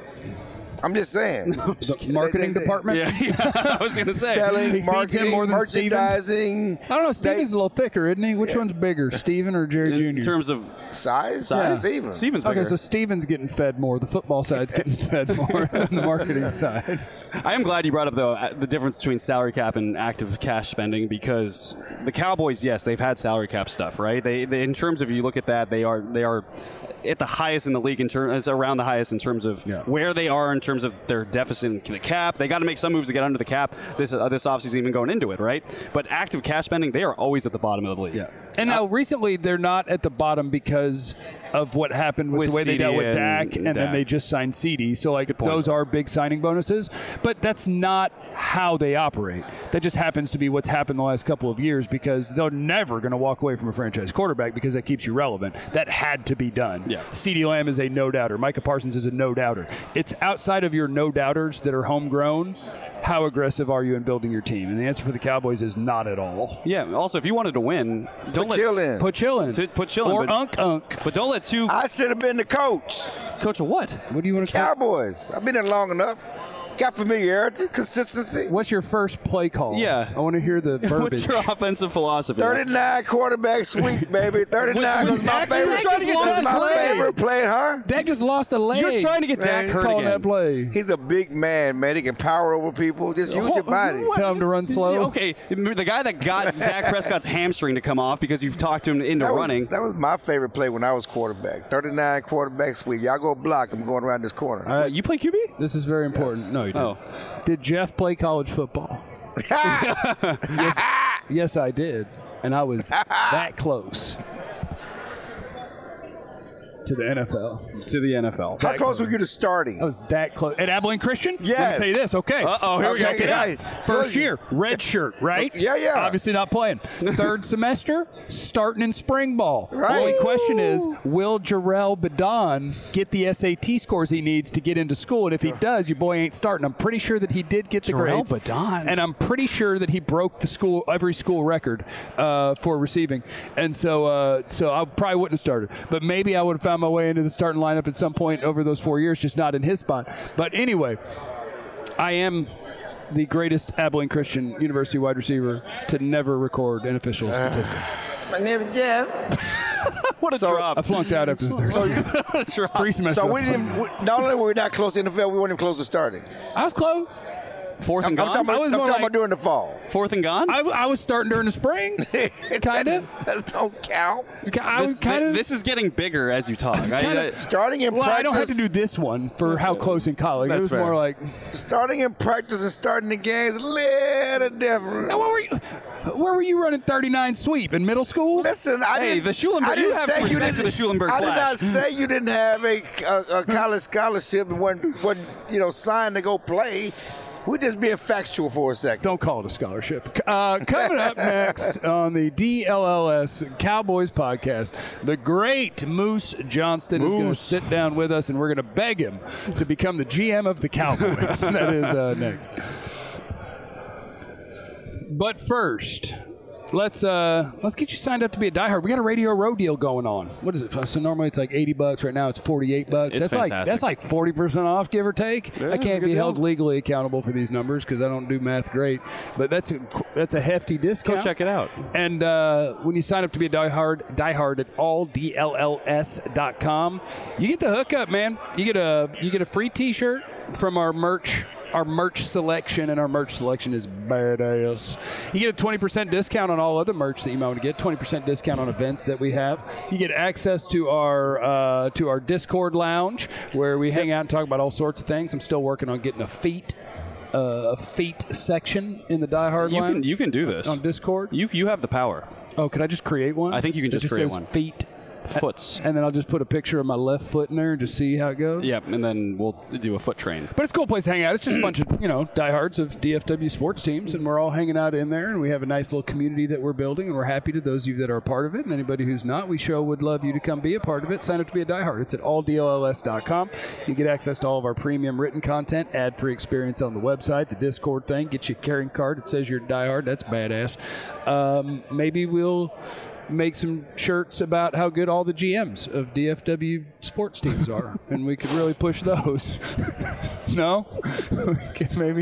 I'm just saying.
The marketing department?
I was going to say.
Selling,
He feeds
marketing,
him more than Steven?
merchandising.
I don't know. Steven's a little thicker, isn't he? Which one's bigger, Steven or Jerry
In
Jr.?
terms of
Size?
Yeah.
Stevens.
Steven's bigger.
Okay, so Steven's getting fed more. The football side's getting fed more than the marketing side.
I am glad you brought up the difference between salary cap and active cash spending because the Cowboys, yes, they've had salary cap stuff, right? They in terms of you look at that, they are at the highest in the league it's around the highest in terms of where they are in terms of their deficit in the cap. They got to make some moves to get under the cap. This offseason even going into it, right? But active cash spending, they are always at the bottom of the league.
Yeah. And now recently they're not at the bottom because of what happened with the way they
CD
dealt with Dak,
and
and then
Dak.
they just signed CD. So like those are big signing bonuses, but that's not how they operate. That just happens to be what's happened the last couple of years because they're never going to walk away from a franchise quarterback because that keeps you relevant. That had to be done.
Yeah.
CD Lamb is a no-doubter. Micah Parsons is a no-doubter. It's outside of your no-doubters that are homegrown. How aggressive are you in building your team? And the answer for the Cowboys is not at all.
Yeah. Also, if you wanted to win, don't
Put Chill in.
Put Chill in.
Put Chill in.
Or
but,
Unk.
But don't let two.
I should have been the coach.
Coach of what?
What do you want to call?
Cowboys. I've been there long enough. Got familiarity, consistency.
What's your first play call?
Yeah.
I want to hear the verbiage.
What's your offensive philosophy?
39 quarterback sweep, baby. 39 was my favorite. That's my favorite play, huh?
Dak just lost a leg.
You're trying to get Dak hurt
calling
again.
that play.
He's a big man, man. He can power over people. Just use your body.
Tell him to run slow.
Okay, the guy that got Dak Prescott's hamstring to come off because you've talked him into running.
That was my favorite play when I was quarterback. 39 quarterback sweep. Y'all go block. I'm going around this corner.
You play QB?
This is very important. No, you didn't.
Oh.
Did Jeff play college football? Yes, I did. And I was that close. to the NFL.
To the NFL.
How close were you to starting?
I was that close. At Abilene Christian?
Yes.
Let me tell you this. Okay.
Uh-oh, here we go.
Check it out. First year, red shirt, right?
Yeah.
Obviously not playing. Third semester, starting in spring ball.
Right.
Only question is, will Jarrell Badon get the SAT scores he needs to get into school? And if he does, your boy ain't starting. I'm pretty sure that he did get the
Jarrell
grades.
Badon.
And I'm pretty sure that he broke the every school record for receiving. And so I probably wouldn't have started. But maybe I would have found my way into the starting lineup at some point over those 4 years, just not in his spot. But anyway, I am the greatest Abilene Christian University wide receiver to never record an official statistic.
My name is Jeff.
What a drop.
I flunked out after the third. 3 semesters.
So not only were we not close to the NFL, we weren't even close to starting.
I was close.
Fourth and
I'm
gone?
talking about during the fall.
Fourth and gone?
I was starting during the spring, kind of.
That don't count.
This is getting bigger as you talk.
Starting in
Well,
practice.
I don't have to do this one for how close in college.
That's
it was
fair.
more like
Starting in practice and starting the game is a little different.
Now, where were you running 39 sweep in middle school?
Listen,
the Schulenberg. You have to respect to the Schulenberg
I did
Flash.
not say you didn't have a college scholarship and wasn't signed to go play. We're just being factual for a second.
Don't call it a scholarship. Coming up next on the DLLS Cowboys podcast, the great Moose Johnston is going to sit down with us, and we're going to beg him to become the GM of the Cowboys. That is next. But first, let's get you signed up to be a diehard. We got a Radio Row deal going on. What is it? So normally it's like $80. Right now it's $48.
It's fantastic.
That's like 40% off, give or take.
Yeah,
I
it's a
can't
good
be
deal.
held legally accountable for these numbers because I don't do math great. But that's a hefty discount.
Go check it out.
And when you sign up to be a diehard at alldlls.com, you get the hookup, man. You get a free T-shirt from our merch selection, and our merch selection is badass. You get a 20% discount on all other merch that you might want to get, 20% discount on events that we have. You get access to our Discord lounge where we hang out and talk about all sorts of things. I'm still working on getting a feet section in the Die Hard lounge.
You can do this
on Discord.
You have the power.
Oh, could I just create one?
I think you can
that
just create
says
one.
Feet.
Foots.
And then I'll just put a picture of my left foot in there and just see how it goes.
Yep, and then we'll do a foot train.
But it's a cool place to hang out. It's just a bunch of, diehards of DFW sports teams, and we're all hanging out in there, and we have a nice little community that we're building, and we're happy to those of you that are a part of it, and anybody who's not, we sure would love you to come be a part of it. Sign up to be a diehard. It's at alldlls.com. You get access to all of our premium written content, ad-free experience on the website, the Discord thing, get you a carrying card that says you're a diehard. That's badass. Maybe we'll make some shirts about how good all the GMs of DFW sports teams are, and we could really push those. No? maybe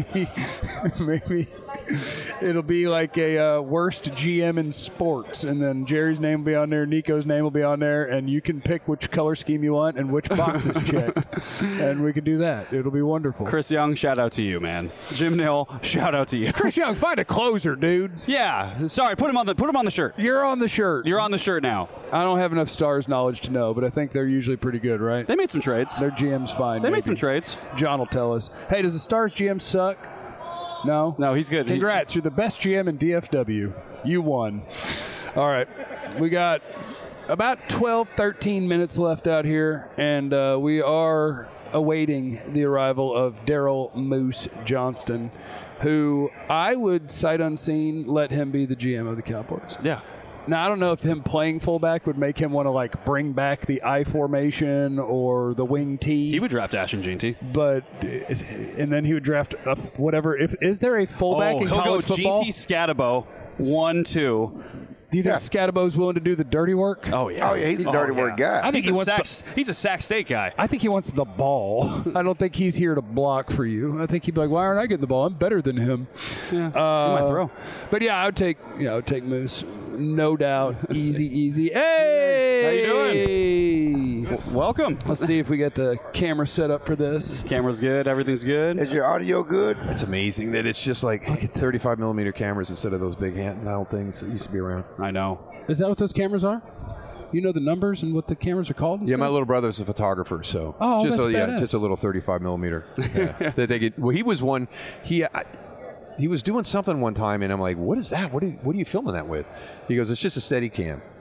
it'll be like a worst GM in sports, and then Jerry's name will be on there, Nico's name will be on there, and you can pick which color scheme you want and which box is checked, and we could do that. It'll be wonderful.
Chris Young, shout out to you, man. Jim Nill, shout out to you.
Chris Young, find a closer, dude.
Yeah, sorry, put him on the shirt.
You're on the shirt.
You're on the shirt now.
I don't have enough Stars knowledge to know, but I think they're usually pretty good, right?
They made some trades.
Their GM's fine.
They made some trades.
John will tell us. Hey, does the Stars GM suck? No,
he's good.
Congrats, you're the best GM in DFW. You won. All right, we got about 12, 13 minutes left out here, and we are awaiting the arrival of Daryl Moose Johnston, who I would sight unseen let him be the GM of the Cowboys.
Yeah.
Now, I don't know if him playing fullback would make him want to bring back the I formation or the wing T.
He would draft Ashton Jeanty.
And then he would draft whatever. Is there a fullback in college football?
Jeanty Scatabo, 1-2.
Do you think Scatabo's willing to do the dirty work?
Oh, yeah.
He's a dirty work guy.
I think
he's a Sac State guy.
I think he wants the ball. I don't think he's here to block for you. I think he'd be like, why aren't I getting the ball? I'm better than him.
Yeah, he might throw.
But yeah, I would take Moose. No doubt. Easy. Hey!
How you doing? Welcome.
Let's see if we get the camera set up for this.
Camera's good. Everything's good.
Is your audio good?
It's amazing that it's just like 35 millimeter cameras instead of those big handheld things that used to be around.
I know.
Is that what those cameras are? You know the numbers and what the cameras are called? And
Yeah,
stuff?
my little brother's a photographer, so
that's badass.
just a little 35 millimeter. Yeah. That they get. Well, he was one. He was doing something one time, and I'm like, "What is that? What are you filming that with?" He goes, "It's just a Steadicam."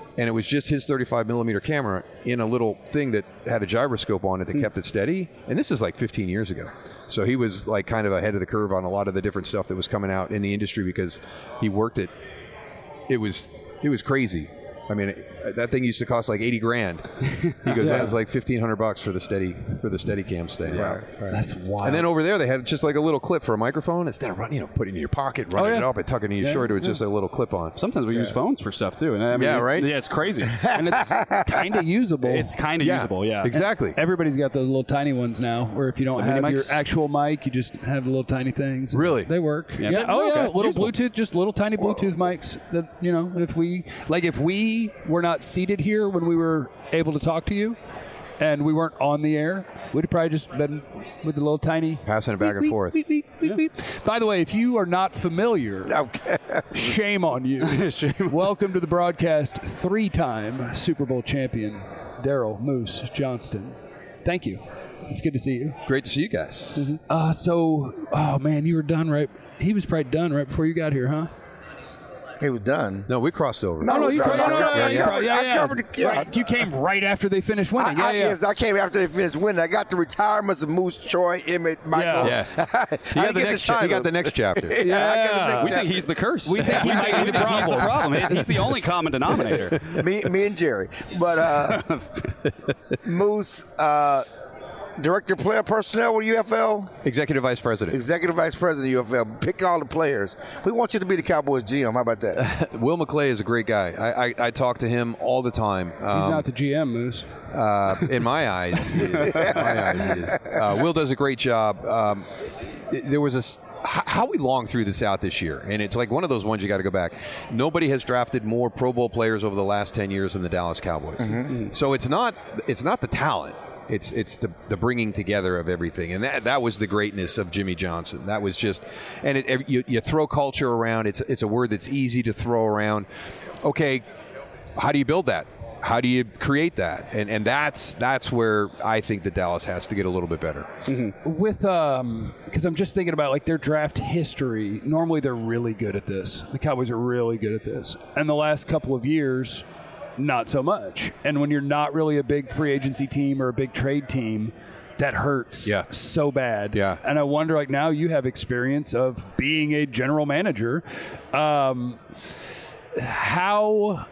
And it was just his 35 millimeter camera in a little thing that had a gyroscope on it that kept it steady. And this is like 15 years ago. So he was like kind of ahead of the curve on a lot of the different stuff that was coming out in the industry because he worked it. It was crazy. I mean, that thing used to cost like $80,000. He goes, that was like $1,500 for the steady cam stand.
Right.
That's wild. And then over there, they had just like a little clip for a microphone instead of putting it in your pocket, running it up, and tucking it in your shirt. It was just a little clip on.
Sometimes we use phones for stuff too. And I mean,
right?
Yeah, it's crazy.
And it's kind of usable.
It's kind of usable, yeah.
Exactly.
Everybody's got those little tiny ones now, where if you don't have your actual mic, you just have the little tiny things.
Really?
They work.
Yeah.
Little
Usable.
Bluetooth, just little tiny Bluetooth mics that, if we were not seated here when we were able to talk to you and we weren't on the air, we'd have probably just been with the little tiny
passing it back and forth.
Beep, beep, beep, beep. By the way, if you are not familiar, shame on you. Welcome to the broadcast, 3-time Super Bowl champion Daryl Moose Johnston. Thank you. It's good to see you.
Great to see you guys.
Man, you were done right. He was probably done right before you got here, huh?
He was done.
No, we crossed over.
You
covered
Right, you came right after they finished winning.
Yes, I came after they finished winning. I got the retirements of Moose, Troy, Emmett, Michael.
Yeah. He got the next chapter.
We think he's the curse. We think he might be the problem. He's the only common denominator.
me and Jerry. But Moose, Director of Player Personnel with UFL?
Executive Vice President.
Executive Vice President of UFL. Pick all the players. We want you to be the Cowboys GM. How about that?
Will McClay is a great guy. I talk to him all the time.
He's not the GM, Moose.
In my eyes, he is. Will does a great job. There was how we long through this out this year, and it's like one of those ones you got to go back. Nobody has drafted more Pro Bowl players over the last 10 years than the Dallas Cowboys. Mm-hmm. So it's not the talent. It's the bringing together of everything, and that was the greatness of Jimmy Johnson. That was just, and you throw culture around. It's a word that's easy to throw around. Okay, how do you build that? How do you create that? And that's where I think that Dallas has to get a little bit better.
Mm-hmm. With because I'm just thinking about like their draft history. Normally they're really good at this. The Cowboys are really good at this, and the last couple of years, not so much. And when you're not really a big free agency team or a big trade team, that hurts so bad.
Yeah.
And I wonder, like, now you have experience of being a general manager. How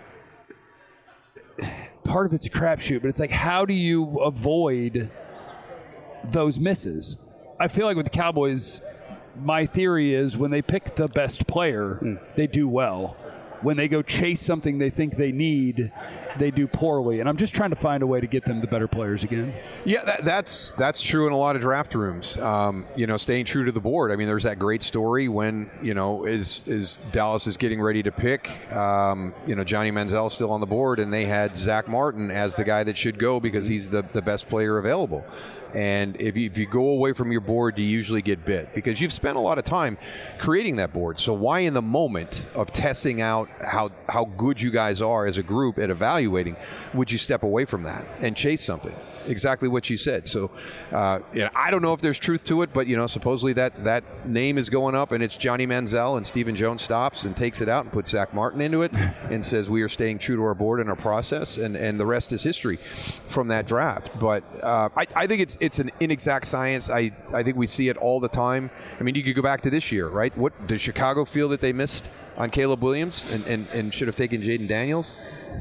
part of it's a crapshoot, but it's like, how do you avoid those misses? I feel like with the Cowboys, my theory is when they pick the best player, they do well. When they go chase something they think they need, they do poorly. And I'm just trying to find a way to get them the better players again.
Yeah, that's true in a lot of draft rooms. Staying true to the board. I mean, there's that great story when, is Dallas is getting ready to pick, Johnny Manziel still on the board, and they had Zach Martin as the guy that should go because he's the best player available. And if you go away from your board, you usually get bit because you've spent a lot of time creating that board. So why in the moment of testing out how good you guys are as a group at evaluating, would you step away from that and chase something? Exactly what you said. So I don't know if there's truth to it, but supposedly that name is going up and it's Johnny Manziel, and Stephen Jones stops and takes it out and puts Zach Martin into it and says we are staying true to our board and our process, and the rest is history from that draft. But I think it's an inexact science. I think we see it all the time. I mean, you could go back to this year, right? What does Chicago feel that they missed on Caleb Williams and should have taken Jaden Daniels?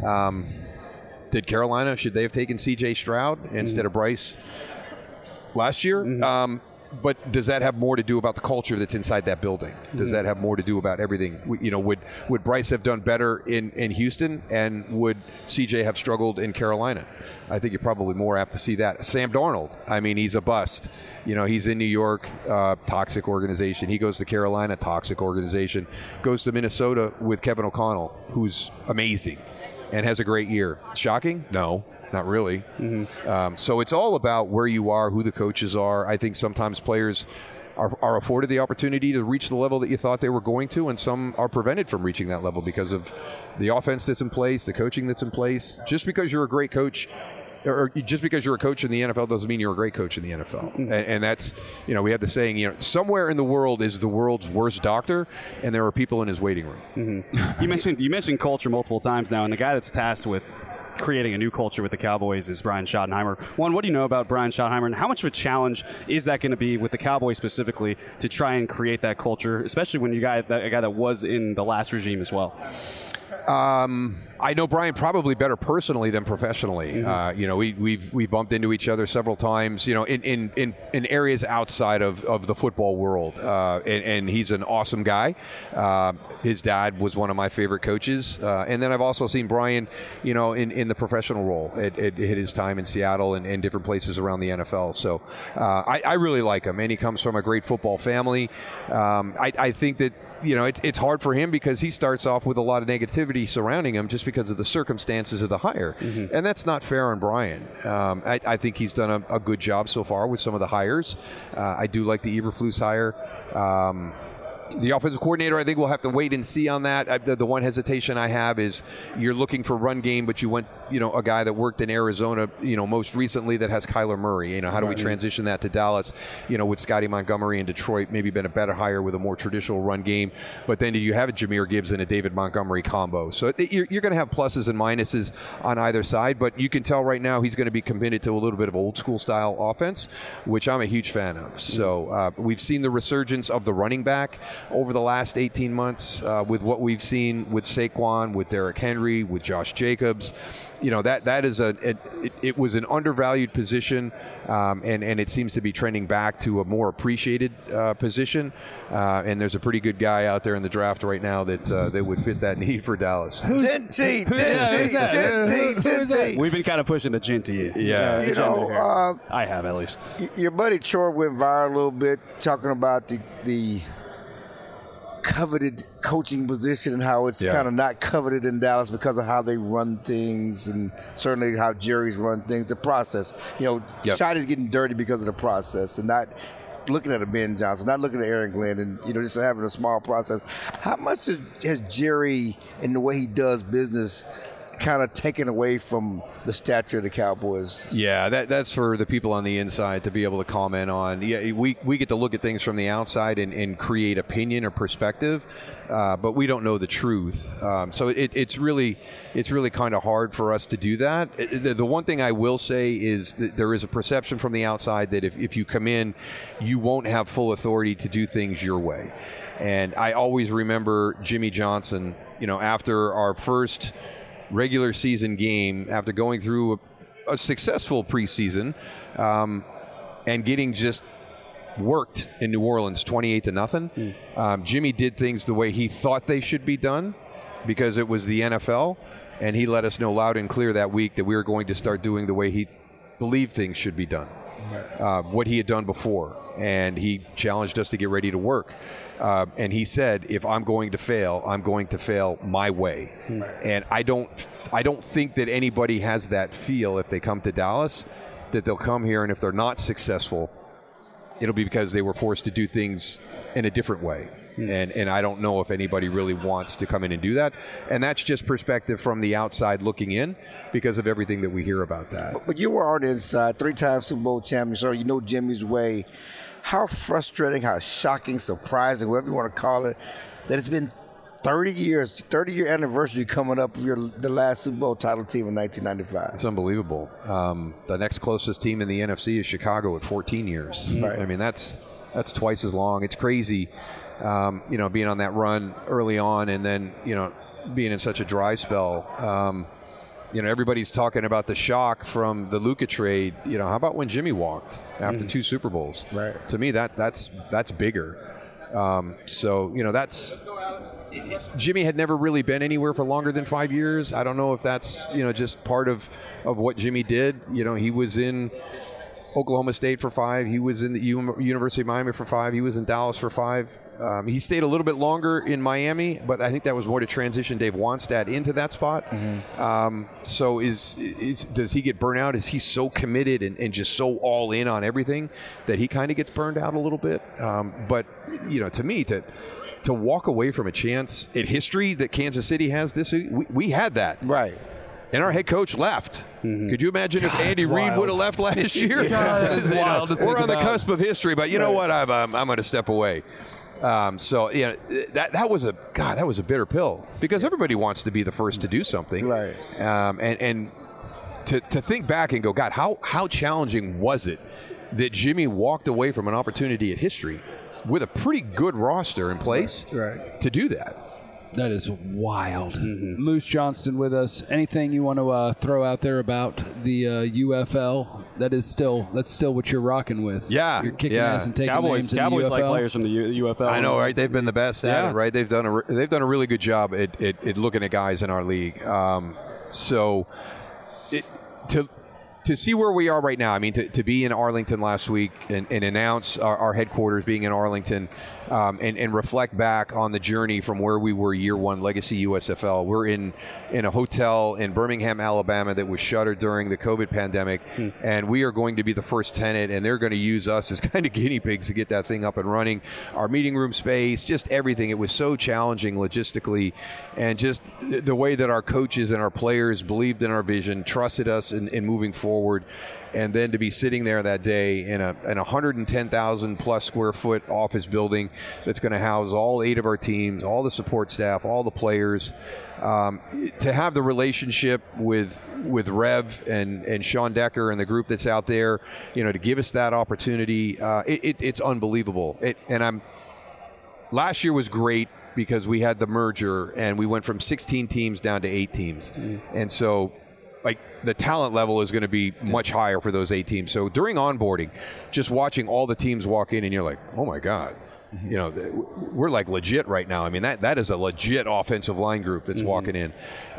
Did Carolina, should they have taken C.J. Stroud instead of Bryce last year? But does that have more to do about the culture that's inside that building? Does that have more to do about everything? Would Bryce have done better in Houston, and would C.J. have struggled in Carolina? I think you're probably more apt to see that. Sam Darnold, I mean, he's a bust. He's in New York, toxic organization. He goes to Carolina, toxic organization. Goes to Minnesota with Kevin O'Connell, who's amazing and has a great year. Shocking? No, not really. So it's all about where you are, who the coaches are. I think sometimes players are afforded the opportunity to reach the level that you thought they were going to, and some are prevented from reaching that level because of the offense that's in place, the coaching that's in place. Just because you're a great coach or just because you're a coach in the NFL doesn't mean you're a great coach in the NFL. And that's, we have the saying, somewhere in the world is the world's worst doctor, and there are people in his waiting room.
You mentioned culture multiple times now, and the guy that's tasked with creating a new culture with the Cowboys is Brian Schottenheimer. One, what do you know about Brian Schottenheimer, and how much of a challenge is that going to be with the Cowboys specifically to try and create that culture, especially when you got a guy that was in the last regime as well?
I know Brian probably better personally than professionally. We've bumped into each other several times, in areas outside of the football world. And he's an awesome guy. His dad was one of my favorite coaches. And then I've also seen Brian, in the professional role at his time in Seattle and different places around the NFL. So I really like him, and he comes from a great football family. I think that it's hard for him because he starts off with a lot of negativity surrounding him just because of the circumstances of the hire. And that's not fair on Brian. I think he's done a good job so far with some of the hires. I do like the Eberflus hire. The offensive coordinator, I think we'll have to wait and see on that. The one hesitation I have is you're looking for run game, but you want, a guy that worked in Arizona, most recently that has Kyler Murray. How do we transition that to Dallas? With Scotty Montgomery in Detroit, maybe been a better hire with a more traditional run game. But then you have a Jahmyr Gibbs and a David Montgomery combo. So you're going to have pluses and minuses on either side, but you can tell right now he's going to be committed to a little bit of old school style offense, which I'm a huge fan of. So we've seen the resurgence of the running back over the last 18 months with what we've seen with Saquon, with Derrick Henry, with Josh Jacobs. That is it was an undervalued position, and it seems to be trending back to a more appreciated position. And there's a pretty good guy out there in the draft right now that would fit that need for Dallas.
Genty.
We've been kind of pushing the Genty.
Yeah.
I have, at least.
Your buddy Troy went viral a little bit talking about the coveted coaching position and how it's kind of not coveted in Dallas because of how they run things, and certainly how Jerry's run things, the process. Shot is getting dirty because of the process, and not looking at a Ben Johnson, not looking at Aaron Glenn, and just having a small process. How much has Jerry and the way he does business kind of taken away from the stature of the Cowboys?
Yeah, that's for the people on the inside to be able to comment on. Yeah, we get to look at things from the outside and create opinion or perspective, but we don't know the truth. So it's really kind of hard for us to do that. The one thing I will say is that there is a perception from the outside that if you come in, you won't have full authority to do things your way. And I always remember Jimmy Johnson, after our first regular season game, after going through a successful preseason and getting just worked in New Orleans 28-0. Jimmy did things the way he thought they should be done because it was the NFL, and he let us know loud and clear that week that we were going to start doing the way he believed things should be done, what he had done before, and he challenged us to get ready to work. And he said, if I'm going to fail, I'm going to fail my way. And I don't think that anybody has that feel if they come to Dallas, that they'll come here and if they're not successful, it'll be because they were forced to do things in a different way. And I don't know if anybody really wants to come in and do that. And that's just perspective from the outside looking in because of everything that we hear about that.
But you were on the inside, 3-time Super Bowl champion, so you know Jimmy's way. How frustrating, how shocking, surprising, whatever you want to call it, that it's been 30 years, 30-year anniversary coming up of the last Super Bowl title team in 1995.
It's unbelievable. The next closest team in the NFC is Chicago at 14 years. Right. I mean, that's twice as long. It's crazy, being on that run early on and then, being in such a dry spell. Everybody's talking about the shock from the Luka trade. How about when Jimmy walked after 2 Super Bowls? Right. To me, that's bigger. That's Jimmy had never really been anywhere for longer than 5 years. I don't know if that's just part of what Jimmy did. He was in Oklahoma State for 5. He was in the University of Miami for 5. He was in Dallas for 5. He stayed a little bit longer in Miami, but I think that was more to transition Dave Wannstedt into that spot. So does he get burnt out? Is he so committed and just so all in on everything that he kind of gets burned out a little bit? But to me, to walk away from a chance at history that Kansas City has this, we had that.
Right.
And our head coach left. Could you imagine if Andy Reid would have left last year? We're on the cusp of history, but you know what? I'm going to step away. So that was a bitter pill because everybody wants to be the first to do something,
right?
And to think back and go, God, how challenging was it that Jimmy walked away from an opportunity at history with a pretty good roster in place to do that?
That is wild. Moose Johnston with us. Anything you want to throw out there about the UFL? That's still what you're rocking with.
Yeah,
you're kicking ass and taking names in the
Cowboys
UFL.
like players from the UFL.
I know, right? They've been the best at it, right? They've done a really good job at looking at guys in our league. To see where we are right now, I mean, to be in Arlington last week and announce our headquarters being in Arlington and reflect back on the journey from where we were year one, Legacy USFL. We're in a hotel in Birmingham, Alabama that was shuttered during the COVID pandemic, and we are going to be the first tenant, and they're going to use us as kind of guinea pigs to get that thing up and running. Our meeting room space, just everything. It was so challenging logistically, and just the way that our coaches and our players believed in our vision, trusted us in moving forward. And then to be sitting there that day in a 110,000 plus square foot office building that's going to house all 8 of our teams, all the support staff, all the players, to have the relationship with Rev and Sean Decker and the group that's out there, to give us that opportunity, it's unbelievable. Last year was great because we had the merger and we went from 16 teams down to 8 teams, and so. The talent level is going to be much higher for those 8 teams. So during onboarding, just watching all the teams walk in and you're like, oh my God, we're like legit right now. I mean, that is a legit offensive line group that's walking in.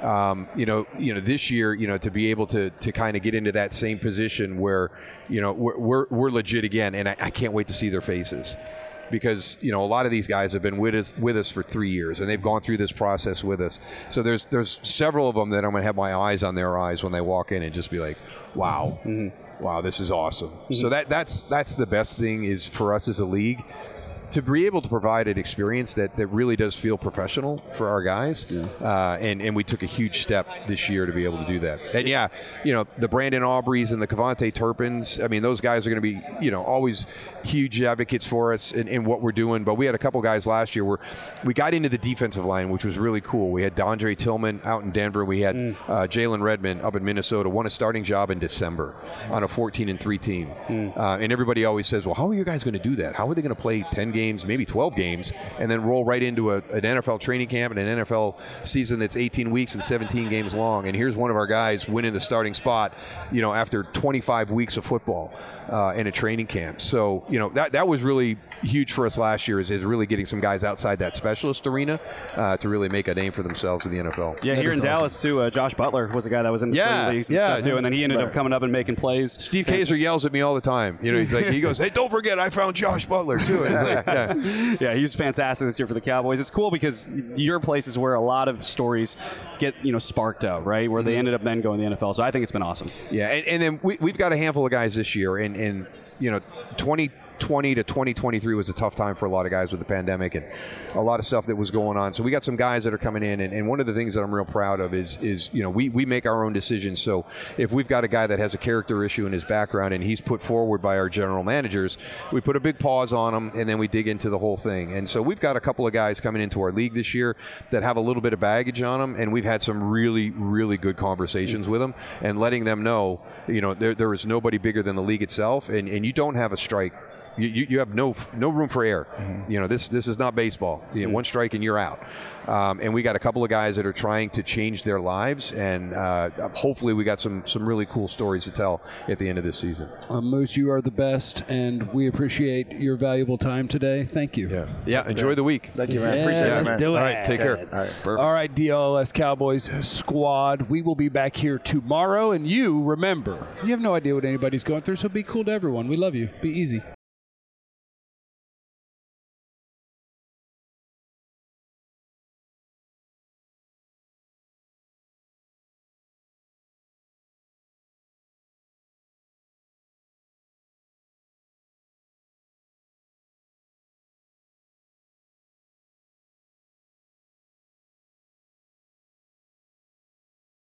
This year, to be able to kind of get into that same position where, we're legit again. And I can't wait to see their faces. Because a lot of these guys have been with us for 3 years, and they've gone through this process with us. So there's several of them that I'm going to have my eyes on their eyes when they walk in and just be like, wow, wow, this is awesome. So that's the best thing is for us as a league to be able to provide an experience that really does feel professional for our guys. And we took a huge step this year to be able to do that. And the Brandon Aubreys and the Cavante Turpins, I mean, those guys are going to be, always huge advocates for us in what we're doing. But we had a couple guys last year where we got into the defensive line, which was really cool. We had DeAndre Tillman out in Denver. We had Jalen Redmond up in Minnesota, won a starting job in December on a 14-3 team. And everybody always says, well, how are you guys going to do that? How are they going to play 10 games, maybe 12 games, and then roll right into an NFL training camp and an NFL season that's 18 weeks and 17 games long? And here's one of our guys winning the starting spot, after 25 weeks of football in a training camp. So, that was really huge for us last year is really getting some guys outside that specialist arena to really make a name for themselves in the NFL.
Yeah, here in Dallas, too, Josh Butler was a guy that was in the spring leagues and stuff, too, and then he ended up coming up and making plays.
Steve Kaiser yells at me all the time. He goes, hey, don't forget, I found Josh Butler, too. And it's like,
yeah, he was fantastic this year for the Cowboys. It's cool because your place is where a lot of stories get sparked out, right? Where they ended up then going to the NFL. So I think it's been awesome.
Yeah, and then we've got a handful of guys this year, and 2020 to 2023 was a tough time for a lot of guys with the pandemic and a lot of stuff that was going on. So we got some guys that are coming in, and one of the things that I'm real proud of is we make our own decisions. So if we've got a guy that has a character issue in his background and he's put forward by our general managers, we put a big pause on him and then we dig into the whole thing. And so we've got a couple of guys coming into our league this year that have a little bit of baggage on them, and we've had some really, really good conversations with them and letting them know, there is nobody bigger than the league itself, and you don't have a strike. You have no room for error. This is not baseball. One strike and you're out. And we got a couple of guys that are trying to change their lives, and hopefully we got some really cool stories to tell at the end of this season.
Moose, you are the best, and we appreciate your valuable time today. Thank you.
Yeah. Enjoy the week.
Thank you, man. Appreciate it, man.
Let's do it.
All right, take care.
All right, DLS Cowboys squad. We will be back here tomorrow, and you remember, you have no idea what anybody's going through, so be cool to everyone. We love you. Be easy.